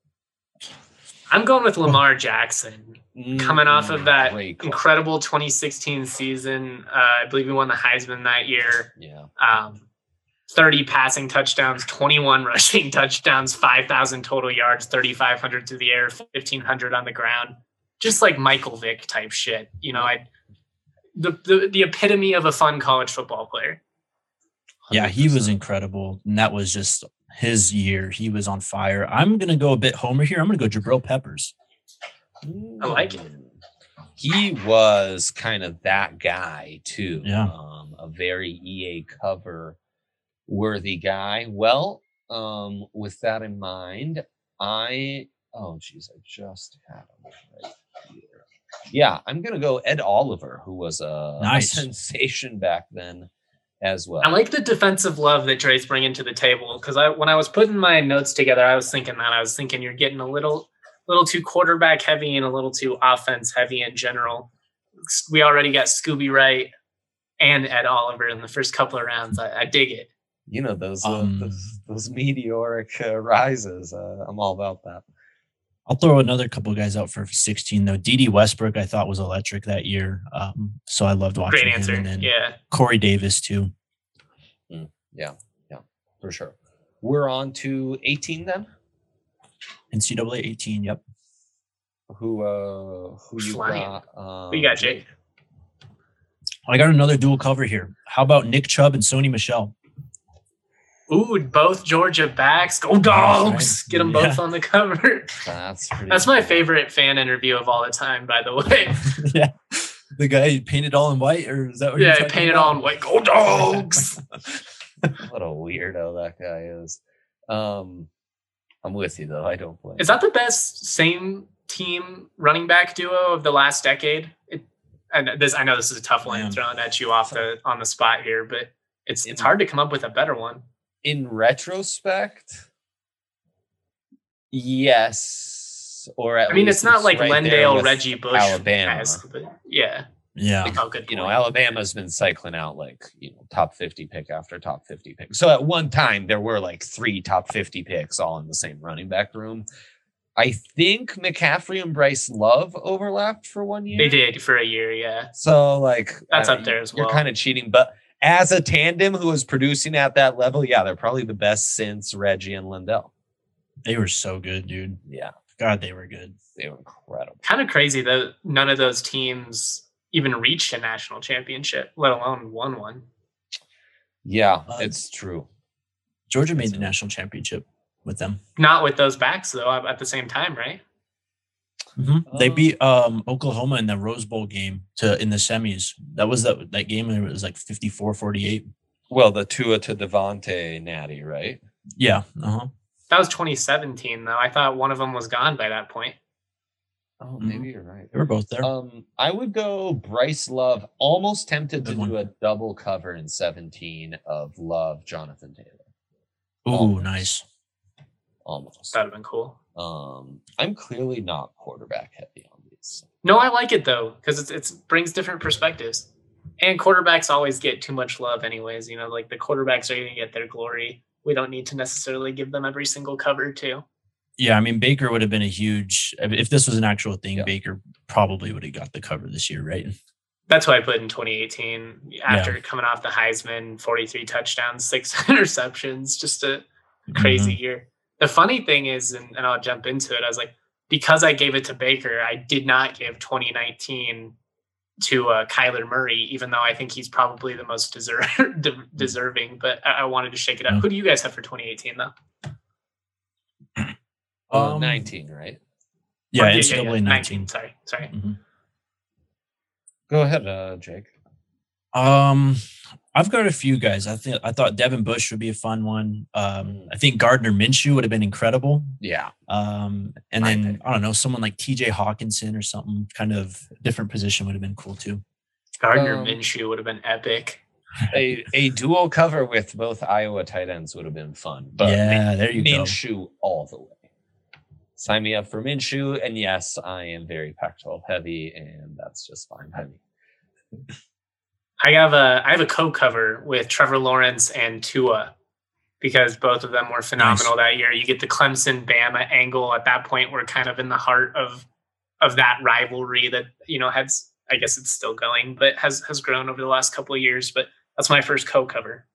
I'm going with Lamar Jackson. Coming off of that Great call. incredible twenty sixteen season, uh, I believe he won the Heisman that year. Yeah. Um, thirty passing touchdowns, twenty-one rushing touchdowns, five thousand total yards, thirty-five hundred through the air, fifteen hundred on the ground. Just like Michael Vick type shit. You know, I the, the the epitome of a fun college football player. Yeah, he was one hundred percent. incredible. And that was just his year. He was on fire. I'm going to go a bit homer here. I'm going to go Jabril Peppers. I like it. He was kind of that guy too. Yeah. Um, a very E A cover worthy guy. Well, um, with that in mind, I oh geez, I just had him right here. Yeah, I'm gonna go Ed Oliver, who was a, Nice. a sensation back then as well. I like the defensive love that Dre's bringing to the table because I, when I was putting my notes together, I was thinking that I was thinking you're getting a little, little too quarterback heavy and a little too offense heavy in general. We already got Scooby Wright and Ed Oliver in the first couple of rounds. I, I dig it. You know those uh, Um, those, those meteoric uh, rises. Uh, I'm all about that. I'll throw another couple of guys out for sixteen though. D D Westbrook, I thought was electric that year. Um, so I loved watching Great him. answer. And then Yeah. Corey Davis too. Yeah, yeah, for sure. We're on to eighteen then. N C double A eighteen. Yep. Who uh who you Flying. got? Um, Who you got, Jake? I got another dual cover here. How about Nick Chubb and Sony Michel? Ooh, both Georgia backs. Go Dogs! Get them both Yeah. on the cover. That's pretty That's my cool. favorite fan interview of all the time, by the way. Yeah. The guy painted all in white, or is that what Yeah, you're I talking painted about? all in white. Go Dogs! What a weirdo that guy is. Um, I'm with you though. I don't blame. Is that the best same team running back duo of the last decade? It, and this, I know this is a tough one Man. thrown at you off the on the spot here, but it's it's hard to come up with a better one. In retrospect, yes, or at I mean, least it's not like right there Lendale, with Reggie Bush, Alabama. but yeah. Yeah. Oh, good. You know, point. Alabama's been cycling out like, you know, top fifty pick after top fifty pick. So at one time there were like three top fifty picks all in the same running back room. I think McCaffrey and Bryce Love overlapped for one year. They did for a year, yeah. So like That's uh, up there as You're well. kind of cheating, but as a tandem who is producing at that level, yeah, they're probably the best since Reggie and Lindell. They were so good, dude. Yeah, God, they were good. they were incredible. Kind of crazy that none of those teams even reached a national championship, let alone won one. Yeah, Uh, it's true. Georgia made That's the right. national championship with them. Not with those backs though, at the same time, right? Mhm. They Um, beat um, Oklahoma in the Rose Bowl game to in the semis. That was that that game, and it was like fifty-four forty-eight. Well, the Tua to Devontae natty, right? Yeah. Uh-huh. That was twenty seventeen though. I thought one of them was gone by that point. Oh, Mhm. maybe you're right. They were both there. Um, I would go Bryce Love. Almost tempted to Good one. do a double cover in seventeen of Love, Jonathan Taylor. Ooh, almost. nice. Almost. That'd have been cool. Um, I'm clearly not quarterback heavy on these. No, I like it though because it's it's brings different perspectives. And quarterbacks always get too much love, anyways. You know, like the quarterbacks are going to get their glory. We don't need to necessarily give them every single cover too. Yeah, I mean Baker would have been a huge. If this was an actual thing, Yeah. Baker probably would have got the cover this year, right? That's why I put in twenty eighteen after coming off the Heisman, forty-three touchdowns, six interceptions, just a crazy year. The funny thing is, and, and I'll jump into it, I was like, because I gave it to Baker, I did not give twenty nineteen to uh, Kyler Murray, even though I think he's probably the most deserve, de- deserving, but I, I wanted to shake it up. Yeah. Who do you guys have for twenty eighteen though? Uh, Um, nineteen, right? Yeah, Or- N C double A nineteen. Sorry, sorry. Mhm. Go ahead, uh, Jake. Um, I've got a few guys. I think I thought Devin Bush would be a fun one. Um, I think Gardner Minshew would have been incredible. Yeah. Um, and My then pick. I don't know, someone like T J Hawkinson or something, kind of different position would have been cool too. Gardner Um, Minshew would have been epic. A a dual cover with both Iowa tight ends would have been fun. But yeah, Min- there you Minshew go. all the way. Sign me up for Minshew, and yes, I am very Pac twelve heavy, and that's just fine by me. I have a I have a co-cover with Trevor Lawrence and Tua because both of them were phenomenal Nice. that year. You get the Clemson Bama angle at that point. We're kind of in the heart of of that rivalry that, you know, has, I guess it's still going, but has has grown over the last couple of years. But that's my first co-cover.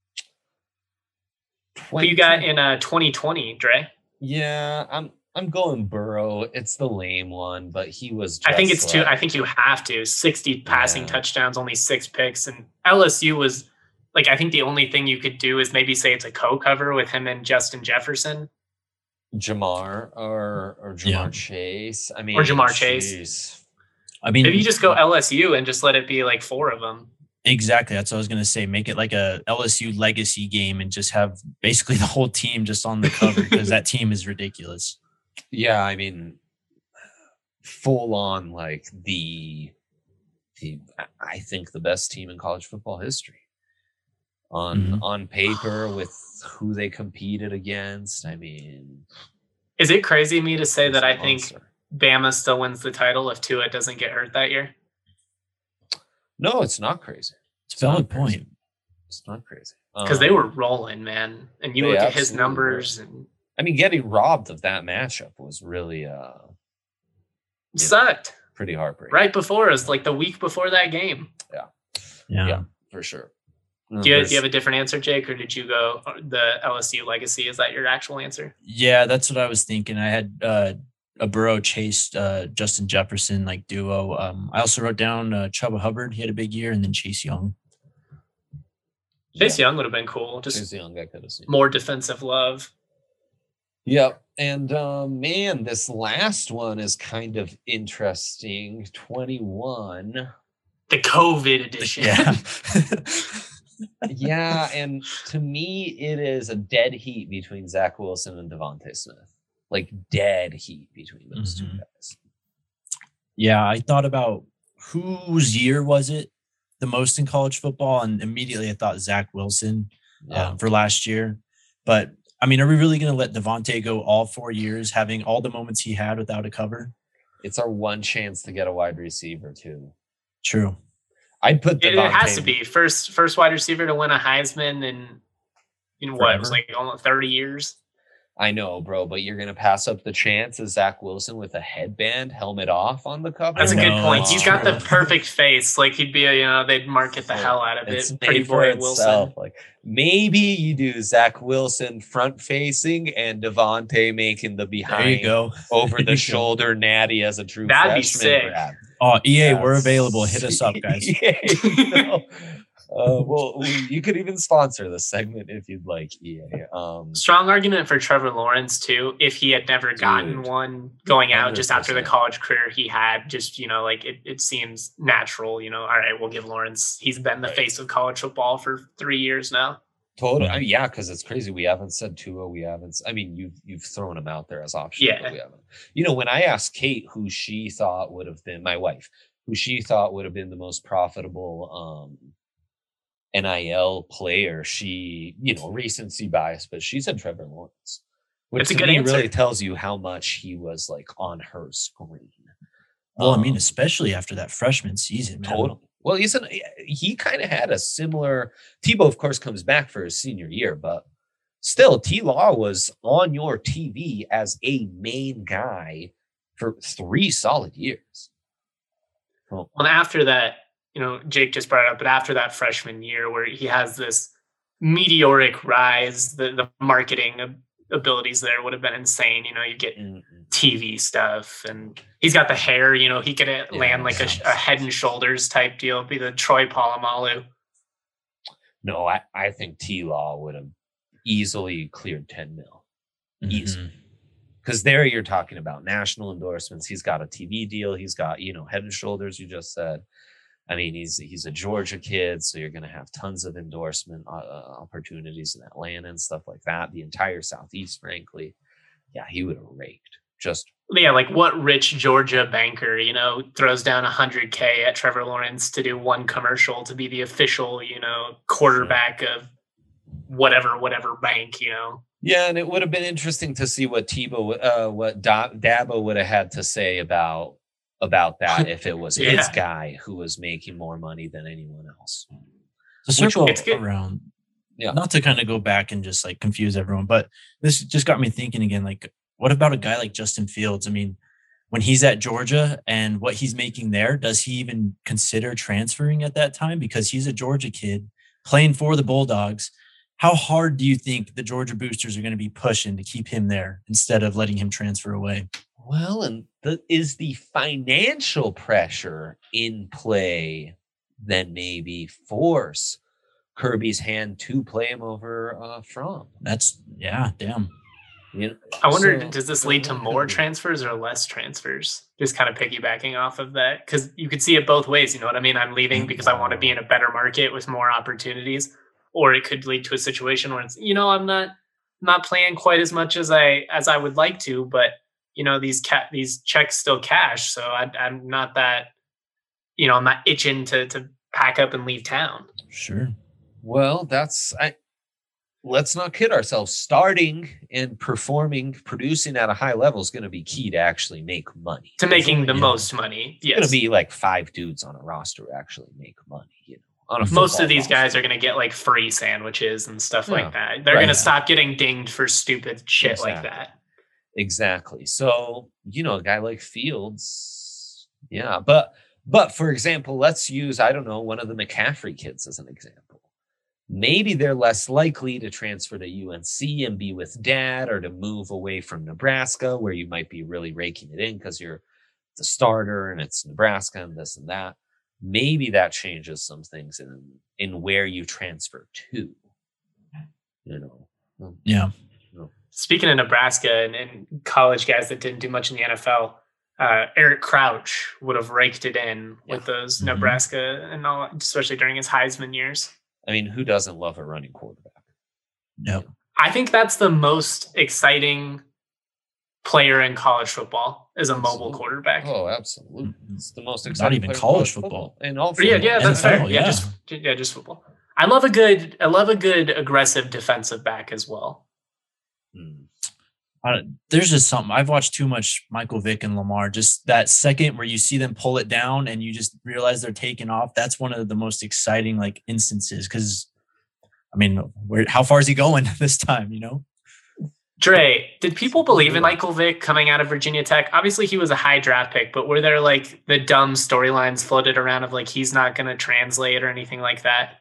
Who you got in uh, twenty twenty, Dre? Yeah, I'm I'm going Burrow. It's the lame one, but he was. Just I think it's like, too. I think you have to sixty passing Yeah. touchdowns, only six picks, and L S U was like. I think the only thing you could do is maybe say it's a co-cover with him and Justin Jefferson. Jamar or or Jamar Yeah. Chase. I mean, Or Jamar Chase. Chase. I mean, Maybe you just go L S U and just let it be like four of them. exactly. That's what I was gonna say. Make it like a L S U legacy game and just have basically the whole team just on the cover because that team is ridiculous. Yeah, I mean, full on like the the I think the best team in college football history. On Mhm. on paper with who they competed against. I mean, Is it crazy of me to say it's that a I think monster. Bama still wins the title if Tua doesn't get hurt that year? No, it's not crazy. It's a valid not crazy. point. It's not crazy. Because they Um, were rolling, man. And you they look at his absolutely numbers and I mean, getting robbed of that matchup was really uh it sucked. pretty heartbreaking. Right before us, like the week before that game. Yeah. Yeah, for sure. Do you, do you have a different answer, Jake, or did you go uh, the L S U legacy? Is that your actual answer? Yeah, that's what I was thinking. I had uh, a Burrow Chase, uh, Justin Jefferson like duo. Um, I also wrote down uh, Chuba Hubbard. He had a big year, and then Chase Young. Chase Young would have been cool. Just Chase Young, I could have seen. more defensive love. Yep. And um, man, this last one is kind of interesting. twenty-one. The COVID edition. Yeah. Yeah, and to me, it is a dead heat between Zach Wilson and Devontae Smith. Like dead heat between those Mhm. two guys. Yeah, I thought about whose year was it the most in college football, and immediately I thought Zach Wilson Yeah. um, for last year. But I mean, are we really going to let Devontae go all four years, having all the moments he had without a cover? It's our one chance to get a wide receiver too. True. I'd put It, Devontae. it has to be first first wide receiver to win a Heisman in in what it was Forever. like almost thirty years. I know, bro, but you're gonna pass up the chance of Zach Wilson with a headband, helmet off on the cover. That's a I good know, point. that's He's got the true. perfect face. Like he'd be a, you know, they'd market the hell out of It's it. made Pretty for boy itself. Wilson. Like maybe you do Zach Wilson front facing and Devontae making the There behind you go. over There the you go. shoulder natty as a true That'd be freshman sick. grab. Oh, E A, Yeah. we're available. Hit us up, guys. Yeah, you know. Uh, well, we- you could even sponsor this segment if you'd like, E A. Um, Strong argument for Trevor Lawrence too. If he had never gotten Dude. one going out just after the one hundred percent. college career he had, just you know, like it, it seems natural. You know, all right, we'll give Lawrence. He's been the Right. face of college football for three years now. Totally. Yeah. I mean, yeah, because it's crazy. We haven't said Tua. We haven't. s- I mean, you've you've thrown him out there as options. Yeah. But we haven't. You know, when I asked Kate who she thought would have been my wife, who she thought would have been the most profitable um, N I L player, she, you know, recency bias, but she said Trevor Lawrence, which It's a to good me answer. really tells you how much he was like on her screen. Well, I mean, Um, especially after that freshman season. man. Totally. Well, he's an, he kind of had a similar. Tebow, of course, comes back for his senior year, but still, T. Law was on your T V as a main guy for three solid years. Well, And after that, you know, Jake just brought it up, but after that freshman year where he has this meteoric rise, the, the marketing ab- abilities there would have been insane. You know, you get mm, mm. T V stuff and he's got the hair, you know, he could uh, land like a, yeah. a head and shoulders type deal, be the Troy Polamalu. No, I, I think T. Law would have easily cleared ten mil. Easy. Mhm. Because there you're talking about national endorsements. He's got a T V deal. He's got, you know, head and shoulders, you just said. I mean, he's he's a Georgia kid, so you're going to have tons of endorsement uh, opportunities in Atlanta and stuff like that. The entire Southeast, frankly. Yeah, he would have raked. Just yeah, like what rich Georgia banker, you know, throws down one hundred K at Trevor Lawrence to do one commercial to be the official, you know, quarterback of whatever, whatever bank, you know? Yeah, and it would have been interesting to see what Tebow, uh, what da- Dabo would have had to say about about that if it was yeah. his guy who was making more money than anyone else. To circle Which, around, yeah, not to kind of go back and just like confuse everyone, but this just got me thinking again, like, what about a guy like Justin Fields? I mean, when he's at Georgia and what he's making there, does he even consider transferring at that time? Because he's a Georgia kid playing for the Bulldogs. How hard do you think the Georgia boosters are going to be pushing to keep him there instead of letting him transfer away? Well, and the, is the financial pressure in play then maybe force Kirby's hand to play him over uh, Fromm? That's, yeah, damn. You know, I wonder, so, does this lead to more transfers or less transfers? Just kind of piggybacking off of that. Because you could see it both ways. You know what I mean? I'm leaving because I want to be in a better market with more opportunities. Or it could lead to a situation where it's, you know, I'm not not playing quite as much as I as I would like to, but you know, these cat these checks still cash. So I, I'm not that, you know, I'm not itching to to pack up and leave town. Sure. Well, that's I. Let's not kid ourselves. Starting and performing, producing at a high level is going to be key to actually make money. To making only, the yeah. most money. Yes. It's going to be like five dudes on a roster who actually make money. You know, on a most of these roster. guys are going to get like free sandwiches and stuff Yeah. like that. They're Right. going to stop getting dinged for stupid shit Exactly. like that. Exactly. So, you know, a guy like Fields, yeah. But, but for example, let's use, I don't know, one of the McCaffrey kids as an example. Maybe they're less likely to transfer to U N C and be with dad, or to move away from Nebraska, where you might be really raking it in because you're the starter and it's Nebraska and this and that. Maybe that changes some things in in where you transfer to. You know. Yeah. Speaking of Nebraska and, and college guys that didn't do much in the N F L, uh, Eric Crouch would have raked it in Yeah. with those Mhm. Nebraska and all, especially during his Heisman years. I mean, who doesn't love a running quarterback? Yep. I think that's the most exciting player in college football is a mobile Absolutely. quarterback. Oh, absolutely. It's the most Not exciting even player in college football. And all yeah, football. yeah, that's N F L, fair. Yeah, yeah. just yeah, just football. I love a good, I love a good aggressive defensive back as well. Hmm. Uh, there's just something. I've watched too much Michael Vick and Lamar. Just that second where you see them pull it down and you just realize they're taking off. That's one of the most exciting like instances. Because, I mean, where how far is he going this time? You know, Dre, did people believe in Michael Vick coming out of Virginia Tech? Obviously, he was a high draft pick, but were there like the dumb storylines floated around of like he's not going to translate or anything like that?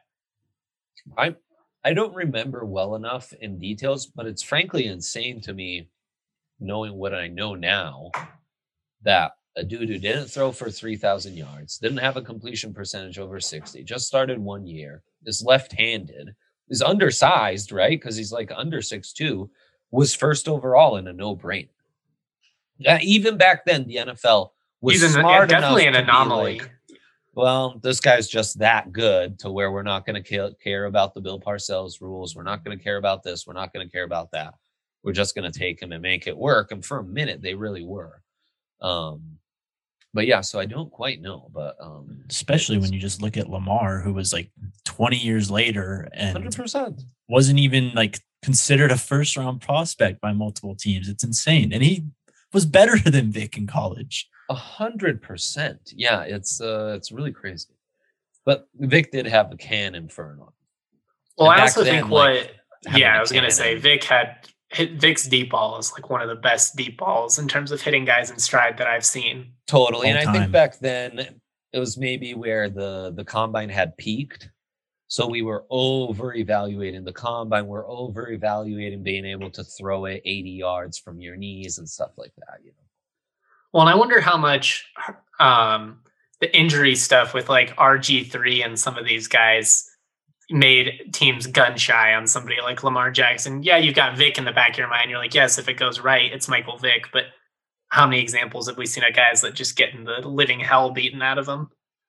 I I don't remember well enough in details, but it's frankly insane to me, knowing what I know now, that a dude who didn't throw for three thousand yards, didn't have a completion percentage over sixty, just started one year, is left-handed, is undersized, right? Because he's like under six two, was first overall in a no-brainer. Yeah, even back then, the N F L was He's an, smart yeah, definitely an enough to be anomaly. like, well, this guy's just that good to where we're not going to care about the Bill Parcells rules. We're not going to care about this. We're not going to care about that. We're just going to take him and make it work. And for a minute, they really were. Um, but yeah, so I don't quite know. But um, especially when you just look at Lamar, who was like twenty years later and one hundred percent wasn't even like considered a first round prospect by multiple teams. It's insane. And he was better than Vic in college. A hundred percent. Yeah, it's uh, it's really crazy. But Vic did have a cannon for an arm. Well, And I back also then, think like, what, having yeah, a I was going to say cannon- Vic had hit Vic's deep ball is like one of the best deep balls in terms of hitting guys in stride that I've seen. Totally. And All I think time. back then it was maybe where the the combine had peaked. So we were over evaluating the combine. We're over evaluating being able to throw it eighty yards from your knees and stuff like that. You know. Well, and I wonder how much um, the injury stuff with like R G three and some of these guys made teams gun shy on somebody like Lamar Jackson. Yeah, you've got Vic in the back of your mind. You're like, yes, if it goes right, it's Michael Vick. But how many examples have we seen of guys that just getting the living hell beaten out of them?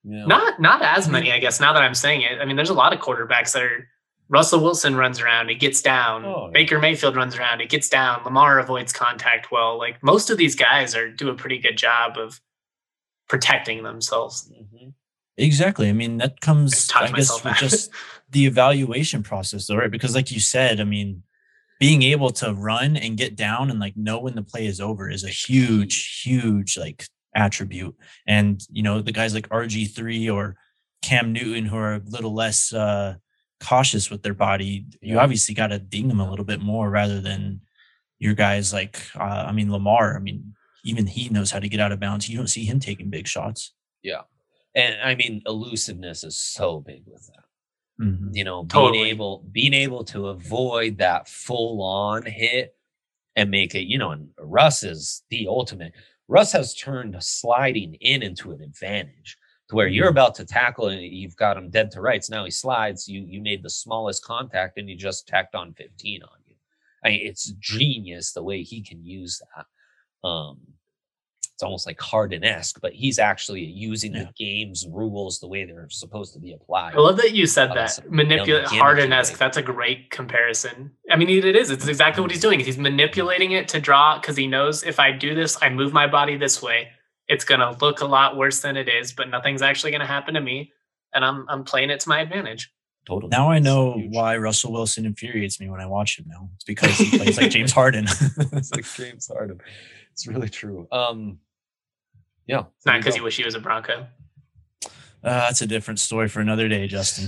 Yeah. Not not as many, I guess, now that I'm saying it. I mean, there's a lot of quarterbacks that are Russell Wilson runs around, he gets down. Oh, yeah. Baker Mayfield runs around, he gets down. Lamar avoids contact well. Like most of these guys are do a pretty good job of protecting themselves. Mm-hmm. Exactly. I mean, that comes, I, I guess, with just the evaluation process, though, right? Because like you said, I mean, being able to run and get down and like know when the play is over is a huge, huge like attribute. And, you know, the guys like R G three or Cam Newton who are a little less uh, cautious with their body, you obviously got to ding them a little bit more rather than your guys like, uh, I mean, Lamar, I mean, even he knows how to get out of bounds. You don't see him taking big shots. Yeah. And I mean, elusiveness is so big with that. Mm-hmm. You know, being totally. able, being able to avoid that full on hit and make it, you know, and Russ is the ultimate. Russ has turned sliding in into an advantage to where you're about to tackle and you've got him dead to rights. Now he slides. You you made the smallest contact and you just tacked on fifteen on you. I mean, it's genius the way he can use that. Um, it's almost like Harden-esque, but he's actually using yeah. the game's rules the way they're supposed to be applied. I love that you said that. Manipulate Harden-esque. That's a great comparison. I mean, it is. It's exactly what he's doing. He's manipulating it to draw because he knows if I do this, I move my body this way, it's going to look a lot worse than it is, but nothing's actually going to happen to me. And I'm I'm playing it to my advantage. Totally. Now I know why Russell Wilson infuriates me when I watch him now. It's because he plays like James Harden. It's like James Harden. It's really true. Um, yeah. It's not because you wish he was a Bronco. Uh, that's a different story for another day, Justin.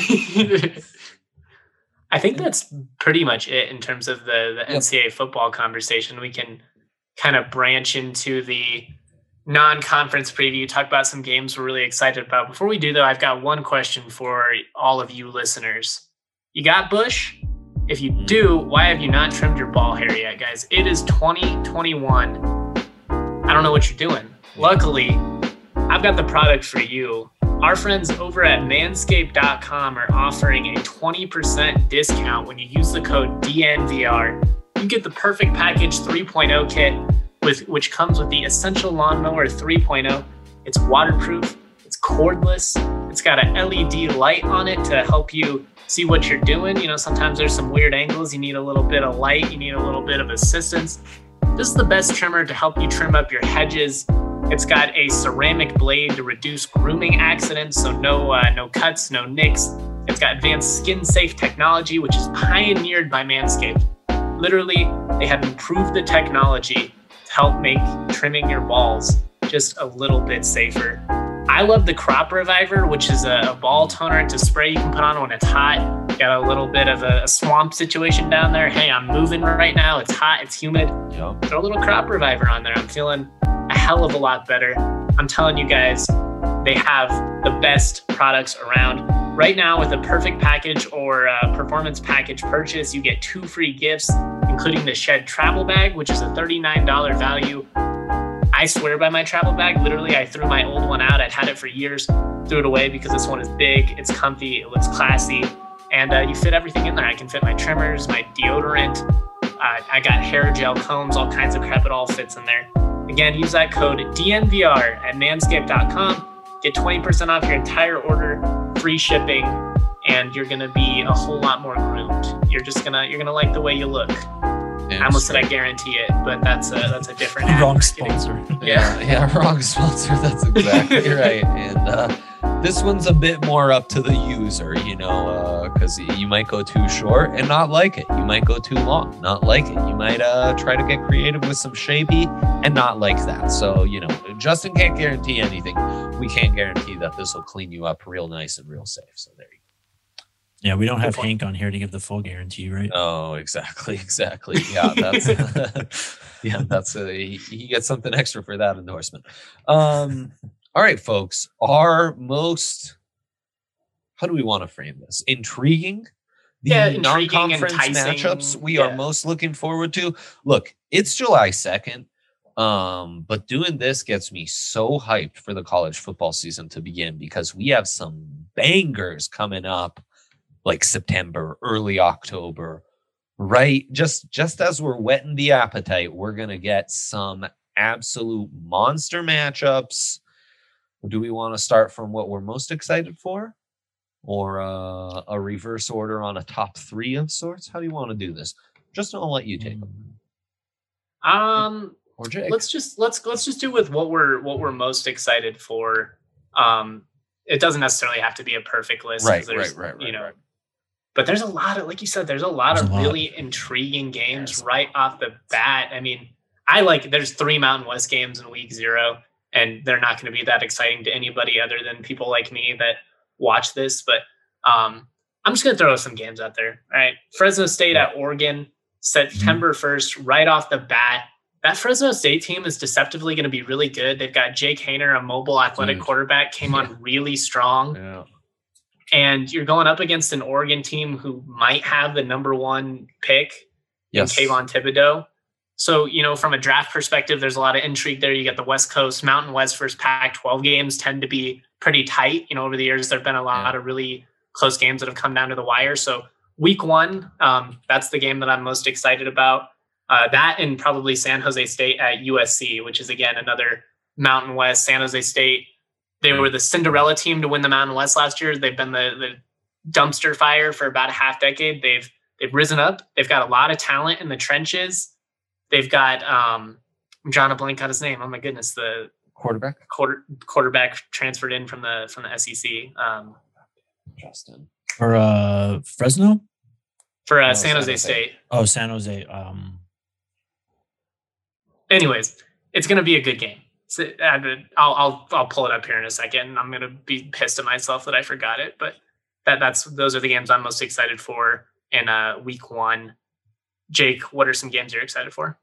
I think that's pretty much it in terms of the, the N C double A football conversation. We can kind of branch into the non-conference preview, talk about some games we're really excited about. Before we do, though, I've got one question for all of you listeners. You got Bush? If you do, why have you not trimmed your ball hair yet, guys? It is twenty twenty-one. I don't know what you're doing. Luckily, I've got the product for you. Our friends over at manscaped dot com are offering a twenty percent discount when you use the code D N V R. You get the Perfect Package three point oh kit, with which comes with the Essential Lawnmower three point oh. It's waterproof, it's cordless, it's got an L E D light on it to help you see what you're doing. You know, sometimes there's some weird angles, you need a little bit of light, you need a little bit of assistance. This is the best trimmer to help you trim up your hedges. It's got a ceramic blade to reduce grooming accidents, so no uh, no cuts, no nicks. It's got advanced skin-safe technology, which is pioneered by Manscaped. Literally, they have improved the technology to help make trimming your balls just a little bit safer. I love the Crop Reviver, which is a, a ball toner to spray you can put on when it's hot. Got a little bit of a, a swamp situation down there. Hey, I'm moving right now. It's hot. It's humid. Yep. Throw a little Crop Reviver on there. I'm feeling a hell of a lot better. I'm telling you guys, they have the best products around. Right now, with a Perfect Package or a Performance Package purchase, you get two free gifts, including the Shed Travel Bag, which is a thirty-nine dollars value. I swear by my travel bag. Literally, I threw my old one out. I'd had it for years, threw it away because this one is big, it's comfy, it looks classy, and uh, you fit everything in there. I can fit my trimmers, my deodorant. Uh, I got hair gel, combs, all kinds of crap. It all fits in there. Again, use that code D N V R at manscaped dot com. Get twenty percent off your entire order, free shipping, and you're gonna be a whole lot more groomed. You're just gonna you're gonna like the way you look. Yeah, I almost said I guarantee it, but that's a that's a different wrong sponsor. Yeah, yeah, wrong sponsor. That's exactly right. And uh, this one's a bit more up to the user, you know, because uh, you might go too short and not like it. You might go too long, not like it. You might uh, try to get creative with some shapey and not like that. So, you know, Justin can't guarantee anything. We can't guarantee that this will clean you up real nice and real safe. So there you go. Yeah, we don't have Hank on here to give the full guarantee, right? Oh, exactly, exactly. Yeah, that's yeah, that's a, he, he gets something extra for that endorsement. Um, all right, folks, our most how do we want to frame this? Intriguing, the yeah, non-conference matchups we yeah. are most looking forward to. Look, it's July second, um, but doing this gets me so hyped for the college football season to begin because we have some bangers coming up. Like September, early October, right? Just just as we're whetting the appetite, we're going to get some absolute monster matchups. Do we want to start from what we're most excited for, or uh, a reverse order on a top three of sorts? How do you want to do this? Just I'll let you take them. Um, or Jake. let's just let's let's just do with what we're what we're most excited for. Um, it doesn't necessarily have to be a perfect list, right? Right, right, right, you know. right. But there's a lot of, like you said, there's a lot there's of lot. really intriguing games yes. right off the bat. I mean, I like there's three Mountain West games in week zero, and they're not going to be that exciting to anybody other than people like me that watch this. But um, I'm just going to throw some games out there. All right. Fresno State yeah. at Oregon, September first, right off the bat. That Fresno State team is deceptively going to be really good. They've got Jake Haener, a mobile athletic Dude. quarterback, came yeah. on really strong. Yeah. And you're going up against an Oregon team who might have the number one pick yes. in Kayvon Thibodeau. So, you know, from a draft perspective, there's a lot of intrigue there. You got the West Coast, Mountain West versus Pac twelve games tend to be pretty tight. You know, over the years, there have been a lot yeah. of really close games that have come down to the wire. So week one, um, that's the game that I'm most excited about. Uh, that and probably San Jose State at U S C, which is, again, another Mountain West. San Jose State, they were the Cinderella team to win the Mountain West last year. They've been the, the dumpster fire for about a half decade. They've they've risen up. They've got a lot of talent in the trenches. They've got um, I'm drawing a blank on his name. Oh my goodness, the quarterback quarter quarterback transferred in from the from the S E C. Um, Justin for uh, Fresno for uh, no, San, San Jose, Jose State. Oh, San Jose. Um. Anyways, it's going to be a good game. So, I'll I'll I'll pull it up here in a second. I'm going to be pissed at myself that I forgot it, but that that's those are the games I'm most excited for in uh, week one. Jake, what are some games you're excited for?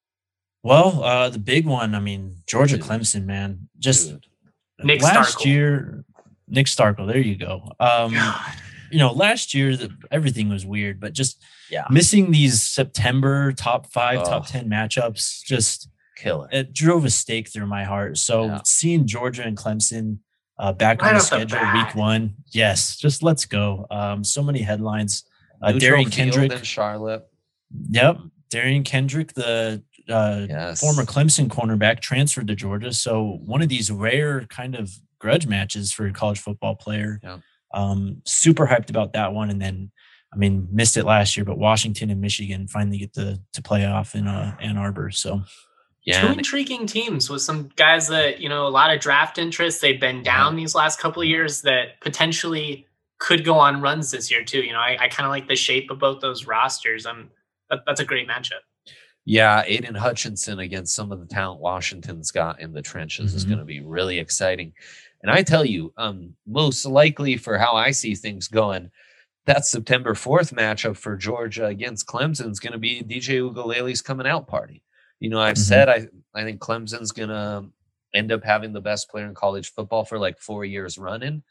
Well, uh, the big one, I mean, Georgia Clemson, man. Just Dude. Nick last Starkel. year, Nick Starkel, there you go. Um, you know, last year, the, everything was weird, but just yeah. missing these September top five, oh. top ten matchups, just killer. It drove a stake through my heart. So yeah. seeing Georgia and Clemson uh, back right on the schedule the week one, yes, just let's go. Um, so many headlines. Uh, Neutral Darian Kendrick. in Charlotte. Yep. Darian Kendrick, the uh, yes. former Clemson cornerback, transferred to Georgia. So one of these rare kind of grudge matches for a college football player. Yeah. Um, super hyped about that one. And then, I mean, missed it last year, but Washington and Michigan finally get to, to play off in uh, Ann Arbor. So yeah. Two intriguing teams with some guys that, you know, a lot of draft interest. They've been down yeah. these last couple of years that potentially could go on runs this year too. You know, I, I kind of like the shape of both those rosters. I'm, That, that's a great matchup. Yeah, Aiden Hutchinson against some of the talent Washington's got in the trenches mm-hmm. is going to be really exciting. And I tell you, um, most likely for how I see things going, that September fourth matchup for Georgia against Clemson is going to be D J Uiagalelei's coming out party. You know, I've mm-hmm. said I, I think Clemson's going to end up having the best player in college football for like four years running.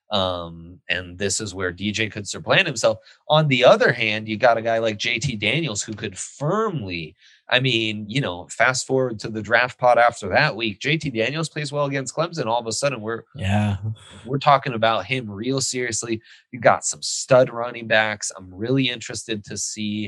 Um, and this is where D J could supplant himself. On the other hand, you got a guy like J T Daniels who could firmly, I mean, you know, fast forward to the draft pod after that week, J T Daniels plays well against Clemson. All of a sudden we're, yeah, we're talking about him real seriously. You got some stud running backs. I'm really interested to see,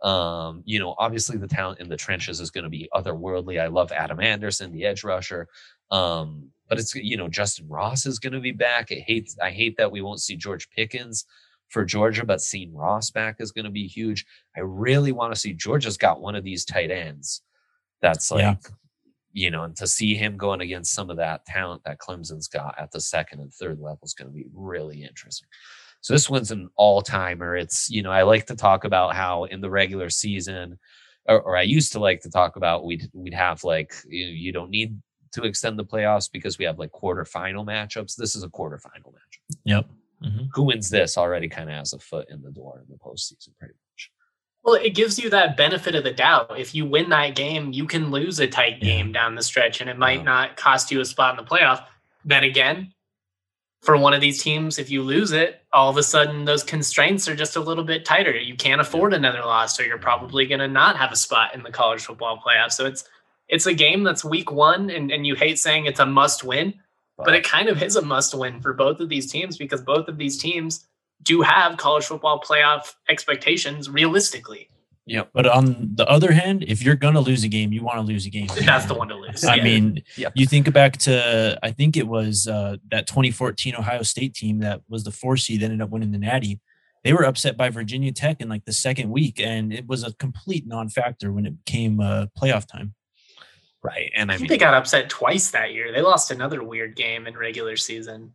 um, you know, obviously the talent in the trenches is going to be otherworldly. I love Adam Anderson, the edge rusher. Um, But it's, you know, Justin Ross is going to be back. I hate, I hate that we won't see George Pickens for Georgia, but seeing Ross back is going to be huge. I really want to see Georgia's got one of these tight ends. That's like, yeah. you know, and to see him going against some of that talent that Clemson's got at the second and third level is going to be really interesting. So this one's an all timer. It's, you know, I like to talk about how in the regular season, or, or I used to like to talk about we'd, we'd have like, you know, you don't need to extend the playoffs because we have like quarterfinal matchups. This is a quarterfinal matchup. Yep. Mm-hmm. Who wins this already kind of has a foot in the door in the postseason, pretty much. Well, it gives you that benefit of the doubt. If you win that game, you can lose a tight yeah. game down the stretch, and it might yeah. not cost you a spot in the playoff. Then again, for one of these teams, if you lose it, all of a sudden those constraints are just a little bit tighter. You can't afford another loss, so you're probably going to not have a spot in the college football playoff. So it's It's a game that's week one, and, and you hate saying it's a must win, but it kind of is a must win for both of these teams because both of these teams do have college football playoff expectations realistically. Yeah, but on the other hand, if you're gonna lose a game, you want to lose a game. That's the one to lose. I yeah. mean, Yep. you think back to I think it was uh, that twenty fourteen Ohio State team that was the four seed, ended up winning the Natty. They were upset by Virginia Tech in like the second week, and it was a complete non-factor when it came uh, playoff time. Right, and I, I think mean, they got upset twice that year. They lost another weird game in regular season.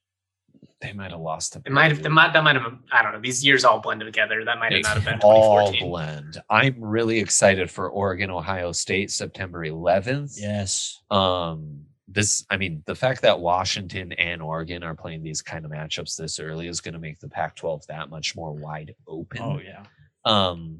they might have lost to It might have. It might, that might have. I don't know. These years all blend together. That might have not have been all twenty fourteen. blend. I'm really excited for Oregon, Ohio State, September eleventh. Yes. Um, this, I mean, the fact that Washington and Oregon are playing these kind of matchups this early is going to make the Pac twelve that much more wide open. Oh yeah. Um,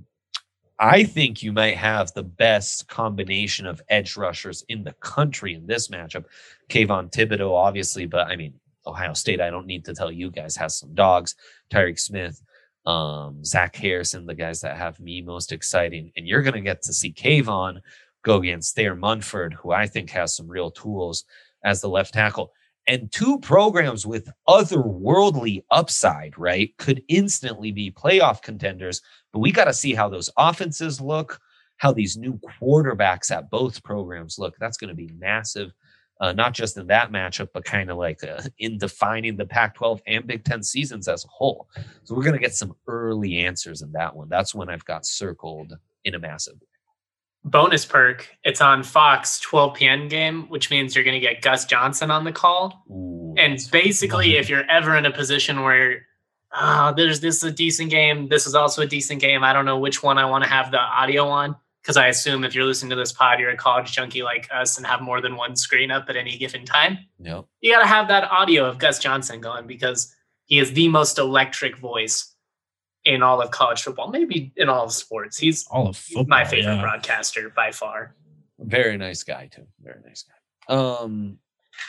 I think you might have the best combination of edge rushers in the country in this matchup. Kayvon Thibodeau, obviously, but I mean, Ohio State, I don't need to tell you guys, has some dogs. Tyreek Smith, um, Zach Harrison, the guys that have me most exciting. And you're going to get to see Kayvon go against Thayer Munford, who I think has some real tools as the left tackle. And two programs with otherworldly upside, right, could instantly be playoff contenders. But we got to see how those offenses look, how these new quarterbacks at both programs look. That's going to be massive. Uh, not just in that matchup, but kind of like uh, in defining the Pac twelve and Big Ten seasons as a whole. So we're going to get some early answers in that one. That's when I've got circled in a massive way. Bonus perk. It's on Fox twelve p.m. game, which means you're going to get Gus Johnson on the call. Ooh, and basically, if you're ever in a position where uh, there's this is a decent game, this is also a decent game, I don't know which one I want to have the audio on. Because I assume if you're listening to this pod, you're a college junkie like us and have more than one screen up at any given time. Yep. You got to have that audio of Gus Johnson going because he is the most electric voice in all of college football, maybe in all of sports. He's all of football, my favorite yeah. broadcaster by far. Very nice guy, too. Very nice guy. Um,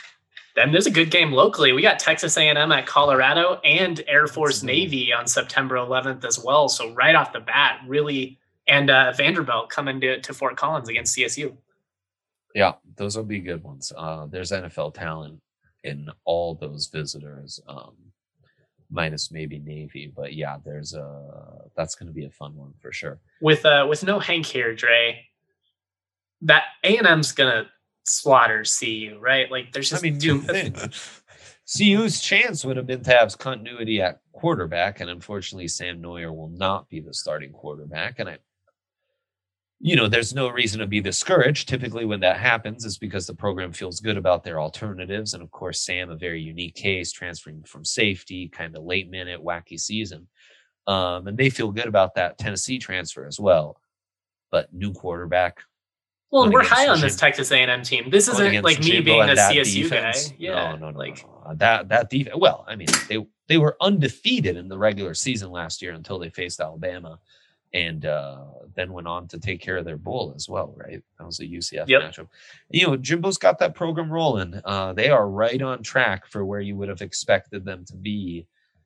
Then there's a good game locally. We got Texas A and M at Colorado and Air Force Navy on September eleventh as well. So right off the bat, really... And uh, Vanderbilt coming to, to Fort Collins against C S U. Yeah, those will be good ones. Uh, there's N F L talent in all those visitors, um, minus maybe Navy. But yeah, there's a that's going to be a fun one for sure. With uh, with no Hank here, Dre, that A and M's gonna slaughter C U, right? Like there's just I mean, too. C U's chance would have been to have continuity at quarterback, and unfortunately, Sam Neuer will not be the starting quarterback. And I. You know, there's no reason to be discouraged. Typically when that happens is because the program feels good about their alternatives. And of course, Sam, a very unique case, transferring from safety, kind of late minute, wacky season. Um, and they feel good about that Tennessee transfer as well. But new quarterback. Well, we're high on this Texas A and M team. This isn't like me being a C S U defense. guy. Yeah, no, no, no, like no, no. that that defense. Well, I mean, they they were undefeated in the regular season last year until they faced Alabama. And uh, then went on to take care of their bowl as well, right? That was a U C F yep. matchup. You know, Jimbo's got that program rolling. Uh, they are right on track for where you would have expected them to be.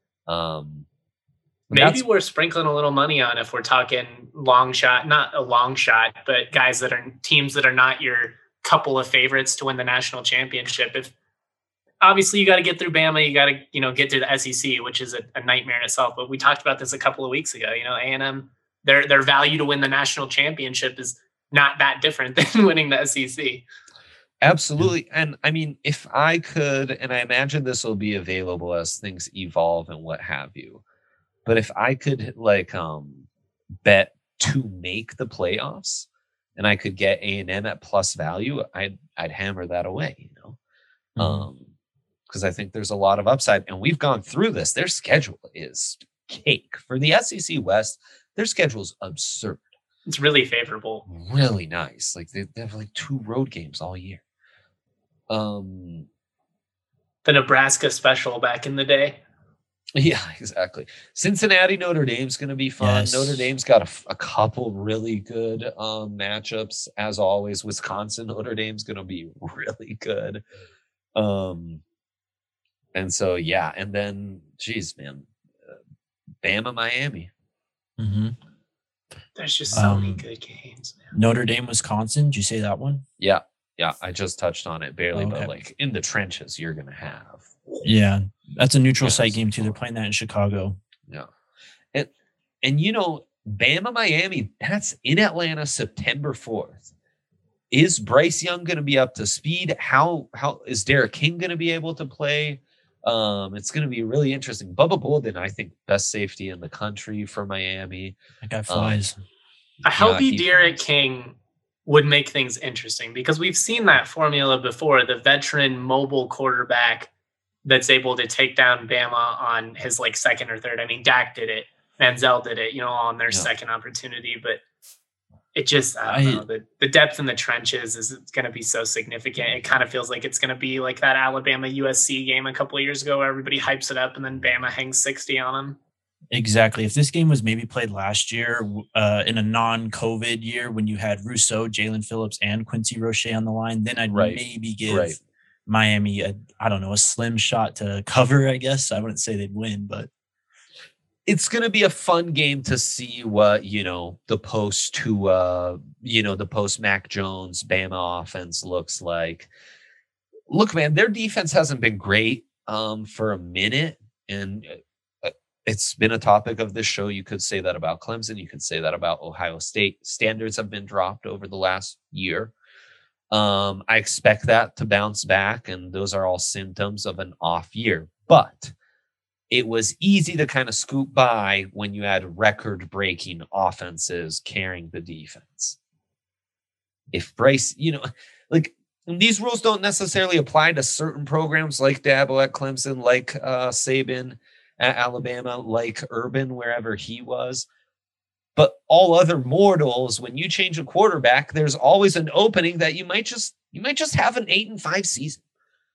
Um, Maybe we're sprinkling a little money on if we're talking long shot, not a long shot, but guys that are teams that are not your couple of favorites to win the national championship. If obviously you got to get through Bama, you got to you know get through the S E C, which is a, a nightmare in itself. But we talked about this a couple of weeks ago. You know, A and M. Their their value to win the national championship is not that different than winning the S E C. Absolutely. And I mean, if I could, and I imagine this will be available as things evolve and what have you, but if I could like um, bet to make the playoffs and I could get A and M at plus value, I'd, I'd hammer that away, you know, mm-hmm. um, because I think there's a lot of upside. And we've gone through this. Their schedule is cake. For the S E C West, their schedule's absurd. It's really favorable. Really nice. Like they, they have like two road games all year. Um, the Nebraska special back in the day. Yeah, exactly. Cincinnati, Notre Dame's going to be fun. Yes. Notre Dame's got a, a couple really good um, matchups. As always, Wisconsin, Notre Dame's going to be really good. Um, and so, yeah. And then, geez, man, uh, Bama, Miami. Mm-hmm. There's just so um, many good games, man. Notre Dame, Wisconsin. Did you say that one? Yeah. Yeah. I just touched on it barely, okay. but like in the trenches, you're going to have. Yeah. That's a neutral Yeah, site game too. They're playing that in Chicago. Yeah. And, and you know, Bama, Miami, that's in Atlanta, September fourth. Is Bryce Young going to be up to speed? How how is Derek King going to be able to play? Um, it's going to be really interesting. Bubba Bolden, I think, best safety in the country for Miami. That guy flies. Um, A healthy yeah, Derek flies. King would make things interesting because we've seen that formula before. The veteran mobile quarterback that's able to take down Bama on his like second or third. I mean, Dak did it. Manziel did it, you know, on their yeah. second opportunity, but it just, I don't I, know, the, the depth in the trenches is going to be so significant. It kind of feels like it's going to be like that Alabama U S C game a couple of years ago where everybody hypes it up and then Bama hangs sixty on them. Exactly. If this game was maybe played last year uh, in a non-COVID year when you had Rousseau, Jalen Phillips, and Quincy Roche on the line, then I'd right. maybe give right. Miami a, I don't know, a slim shot to cover, I guess. I wouldn't say they'd win, but it's going to be a fun game to see what, you know, the post to, uh, you know, the post Mac Jones Bama offense looks like. Look, man, their defense hasn't been great um, for a minute. And uh, it's been a topic of this show. You could say that about Clemson. You could say that about Ohio State. Standards have been dropped over the last year. Um, I expect that to bounce back. And those are all symptoms of an off year. But it was easy to kind of scoop by when you had record-breaking offenses carrying the defense. If Bryce, you know, like these rules don't necessarily apply to certain programs like Dabo at Clemson, like uh, Saban at Alabama, like Urban, wherever he was. But all other mortals, when you change a quarterback, there's always an opening that you might just you might just have an eight and five season.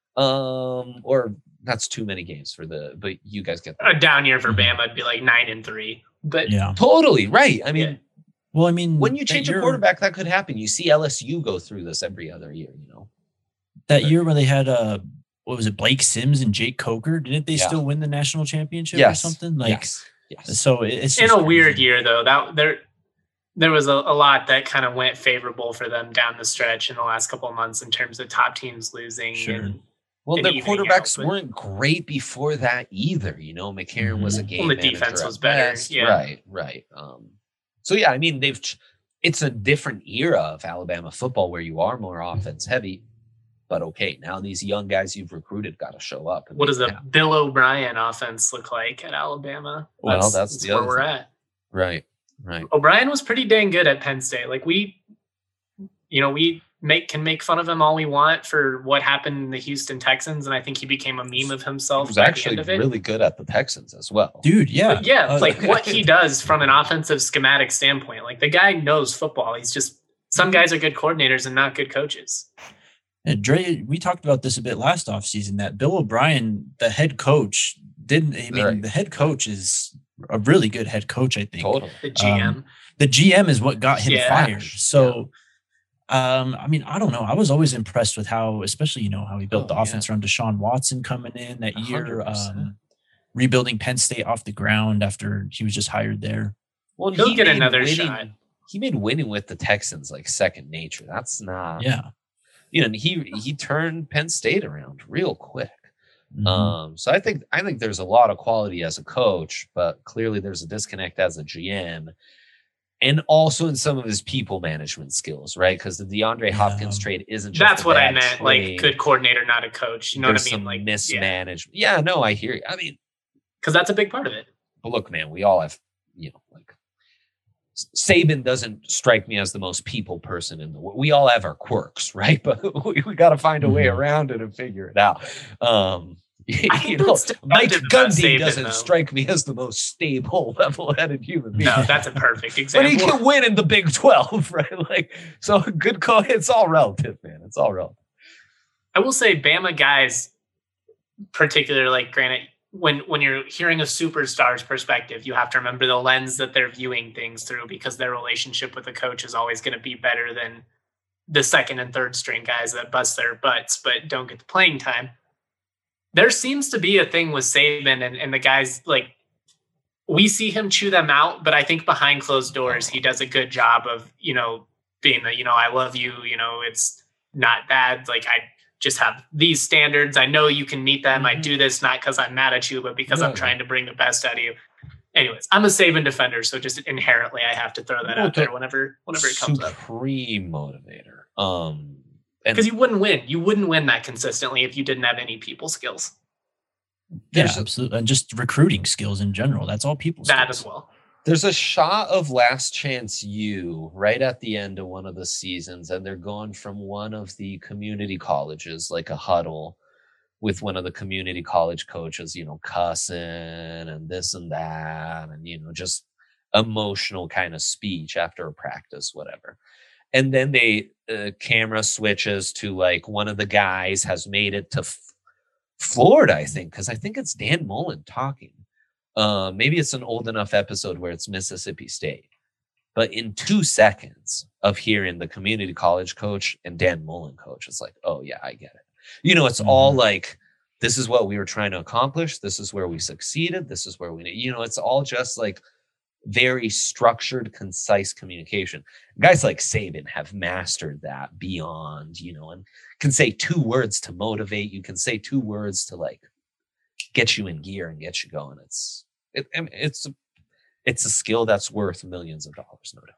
Um, or that's too many games for the, but you guys get that. A down year for Bama would be like nine and three, but yeah, totally right. I mean, yeah. well, I mean, when you change a quarterback, that could happen. You see L S U go through this every other year, you know, that but, year where they had, uh, what was it? Blake Sims and Jake Coker. Didn't they yeah. still win the national championship yes. or something? Like, yes. yes. So it's in a crazy. weird year though, that there, there was a, a lot that kind of went favorable for them down the stretch in the last couple of months in terms of top teams losing. Sure. And, Well, their quarterbacks out, weren't great before that either. You know, McCarron mm-hmm. was a game well, the manager defense was better. Best. Yeah. Right, right. Um, so, yeah, I mean, they've. It's a different era of Alabama football where you are more offense heavy. But, okay, now these young guys you've recruited got to show up. What does the happen. Bill O'Brien offense look like at Alabama? Well, that's, that's, that's the where other we're thing. at. Right, right. O'Brien was pretty dang good at Penn State. Like, we, you know, we make can make fun of him all we want for what happened in the Houston Texans, and I think he became a meme of himself. He was by actually the end of it. really good at the Texans as well. Dude, yeah. But yeah, uh, like what he does from an offensive schematic standpoint. Like the guy knows football. He's just some guys are good coordinators and not good coaches. And Dre, we talked about this a bit last offseason that Bill O'Brien, the head coach, didn't I mean right. the head coach is a really good head coach, I think. Totally. The G M. Um, the G M is what got him yeah. fired. So Um, I mean, I don't know. I was always impressed with how, especially, you know, how he built oh, the offense yeah. around Deshaun Watson coming in that year, um, rebuilding Penn State off the ground after he was just hired there. Well, he'll he get another winning, shot. He made winning with the Texans like second nature. That's not, yeah. You know, he he turned Penn State around real quick. Mm-hmm. Um, so I think I think there's a lot of quality as a coach, but clearly there's a disconnect as a G M. And also in some of his people management skills, right? Because the DeAndre Hopkins yeah. trade isn't just that's what I meant. Trade. Like good coordinator, not a coach. You know There's what I mean? Some like mismanagement. Yeah. yeah, no, I hear you. I mean, because that's a big part of it. But look, man, we all have, you know, like Saban doesn't strike me as the most people person in the world. We all have our quirks, right? But we, we got to find a way mm-hmm. around it and figure it out. Um, you know, Mike Gundy doesn't though. strike me as the most stable, level-headed human being. No, that's a perfect example. But he can win in the Big twelve, right? Like, so good call. It's all relative, man. It's all relative. I will say, Bama guys, particularly, like, granted, when when you're hearing a superstar's perspective, you have to remember the lens that they're viewing things through, because their relationship with the coach is always going to be better than the second and third string guys that bust their butts but don't get the playing time. There seems to be a thing with Saban and, and the guys, like, we see him chew them out, but I think behind closed doors, he does a good job of, you know, being the, you know, I love you, you know, it's not bad. Like, I just have these standards. I know you can meet them. Mm-hmm. I do this not because I'm mad at you, but because no, I'm trying to bring the best out of you. anyways, I'm a Saban defender, so just inherently I have to throw that out there whenever whenever it comes up. Supreme motivator. Um, because you wouldn't win. You wouldn't win that consistently if you didn't have any people skills. Yeah, absolutely. And just recruiting skills in general. That's all people skills. That as well. There's a shot of Last Chance U right at the end of one of the seasons, and they're going from one of the community colleges, like a huddle with one of the community college coaches, you know, cussing and this and that, and, you know, just emotional kind of speech after a practice, whatever. And then they uh, camera switches to like one of the guys has made it to F- Florida, I think, because I think it's Dan Mullen talking. Uh, maybe it's an old enough episode where it's Mississippi State. But in two seconds of hearing the community college coach and Dan Mullen coach, it's like, oh, yeah, I get it. You know, it's mm-hmm. all like, this is what we were trying to accomplish. This is where we succeeded. This is where we, you know, it's all just like very structured, concise communication. Guys like Saban have mastered that beyond, you know, and can say two words to motivate. You can say two words to like get you in gear and get you going. It's, it, I mean, it's, a, it's a skill that's worth millions of dollars, no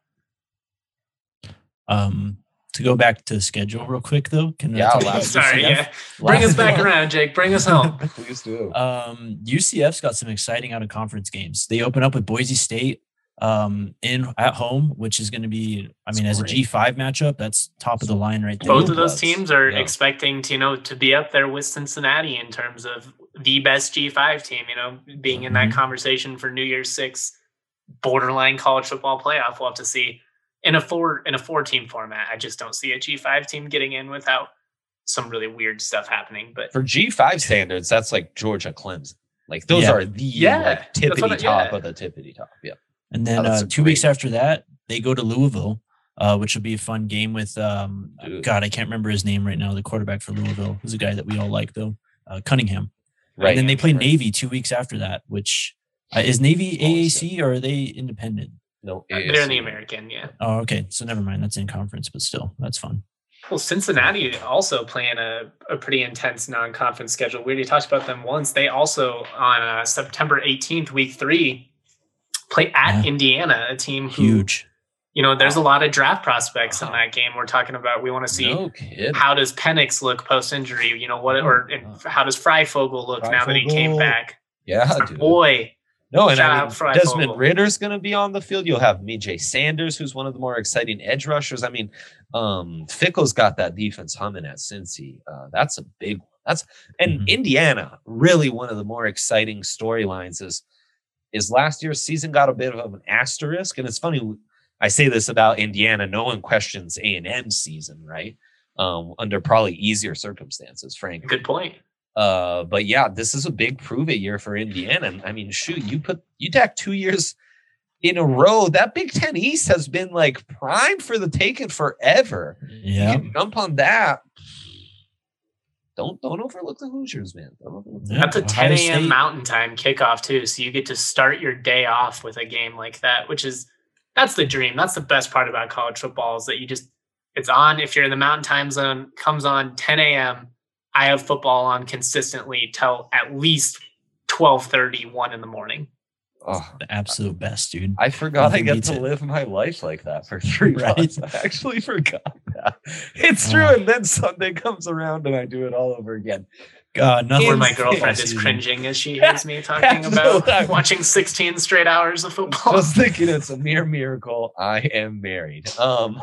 doubt. Um, to go back to schedule real quick though, can yeah, I talk sorry, yeah, bring us back around, Jake. Bring us home. Please do. Um, U C F's got some exciting out of conference games. They open up with Boise State um, in at home, which is going to be, I mean, that's as great. A G five matchup, that's top of the line right there. Both of those teams are yeah. expecting to, you know, to be up there with Cincinnati in terms of the best G five team. You know, being in mm-hmm. that conversation for New Year's Six, borderline college football playoff. We'll have to see. In a four in a four team format, I just don't see a G five team getting in without some really weird stuff happening. But for G five standards, that's like Georgia Clemson. Like those yeah. are the yeah, like tippity I, top yeah. of the tippity top. Yeah. And then oh, uh, two great. weeks after that, they go to Louisville, uh, which will be a fun game with um, God, I can't remember his name right now. The quarterback for Louisville, who's a guy that we all like though, uh, Cunningham. Right. And then they play right. Navy two weeks after that, which uh, is Navy A A C or are they independent? No, they're in the American, yeah. Oh, okay. So never mind. That's in conference, but still, that's fun. Well, Cincinnati also playing a, a pretty intense non-conference schedule. We already talked about them once. They also, on uh, September eighteenth, week three, play at yeah. Indiana, a team who, huge. You know, there's a lot of draft prospects in that game. We're talking about, we want to see no how does Penix look post-injury? You know, what, or and how does Freifogel look Freifogel. now that he came back? Yeah, dude. Boy. No, and I mean, Desmond Ritter's going to be on the field. You'll have Mijay Sanders, who's one of the more exciting edge rushers. I mean, um, Fickle's got that defense humming at Cincy. Uh, that's a big one. That's and mm-hmm. Indiana, really one of the more exciting storylines is is last year's season got a bit of an asterisk. And it's funny, I say this about Indiana. No one questions A and M's season, right? Um, under probably easier circumstances, frankly. Good point. Uh, but yeah, this is a big prove it year for Indiana. And I mean, shoot, you put you tack two years in a row. That Big Ten East has been like prime for the taking forever. Yeah, you can jump on that. Don't don't overlook the Hoosiers, man. Don't overlook yeah, that's a ten a.m. Mountain Time kickoff too, so you get to start your day off with a game like that, which is that's the dream. That's the best part about college football is that you just it's on. If you're in the Mountain Time zone, comes on ten a.m. I have football on consistently till at least twelve thirty, one in the morning. Oh, the absolute best, dude. I forgot Nothing I get to it. live my life like that for three right? months. I actually forgot that. It's true. Uh, and then Sunday comes around and I do it all over again. God, nothing. Where my girlfriend is cringing as she hears me talking about watching sixteen straight hours of football. I was thinking it's a mere miracle I am married. Um,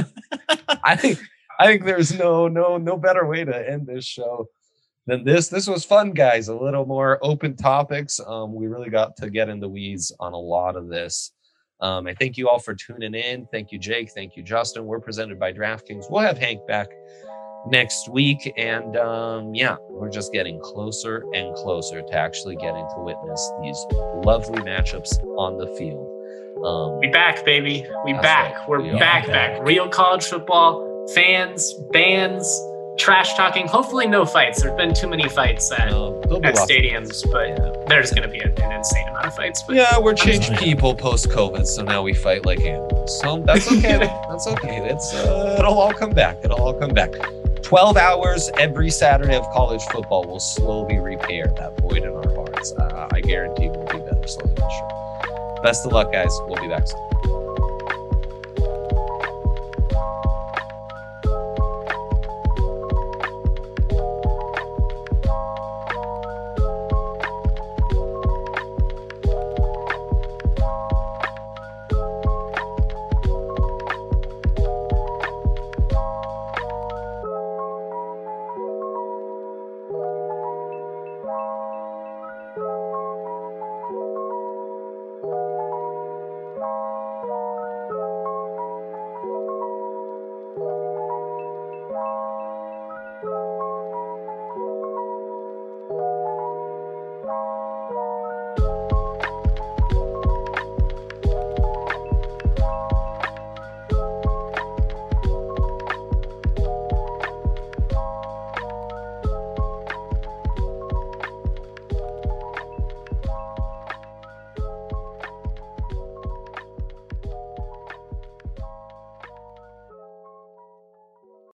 I think I think there's no no no better way to end this show than this. This was fun, guys. A little more open topics. Um, we really got to get in the weeds on a lot of this. Um, I thank you all for tuning in. Thank you, Jake. Thank you, Justin. We're presented by DraftKings. We'll have Hank back next week. And um, yeah, we're just getting closer and closer to actually getting to witness these lovely matchups on the field. Um, we back, baby. We back. Right. We're we back, back, back. Real college football. Fans, bands, trash talking. Hopefully no fights. There's been too many fights at, no, at stadiums, but yeah. there's going to be an insane amount of fights. But yeah, we're changed people post-COVID, so now we fight like animals. So that's okay. That's okay. It's uh, it'll all come back. It'll all come back. twelve hours every Saturday of college football will slowly repair that void in our hearts. Uh, I guarantee we'll be better slowly, for sure. Best of luck, guys. We'll be back soon.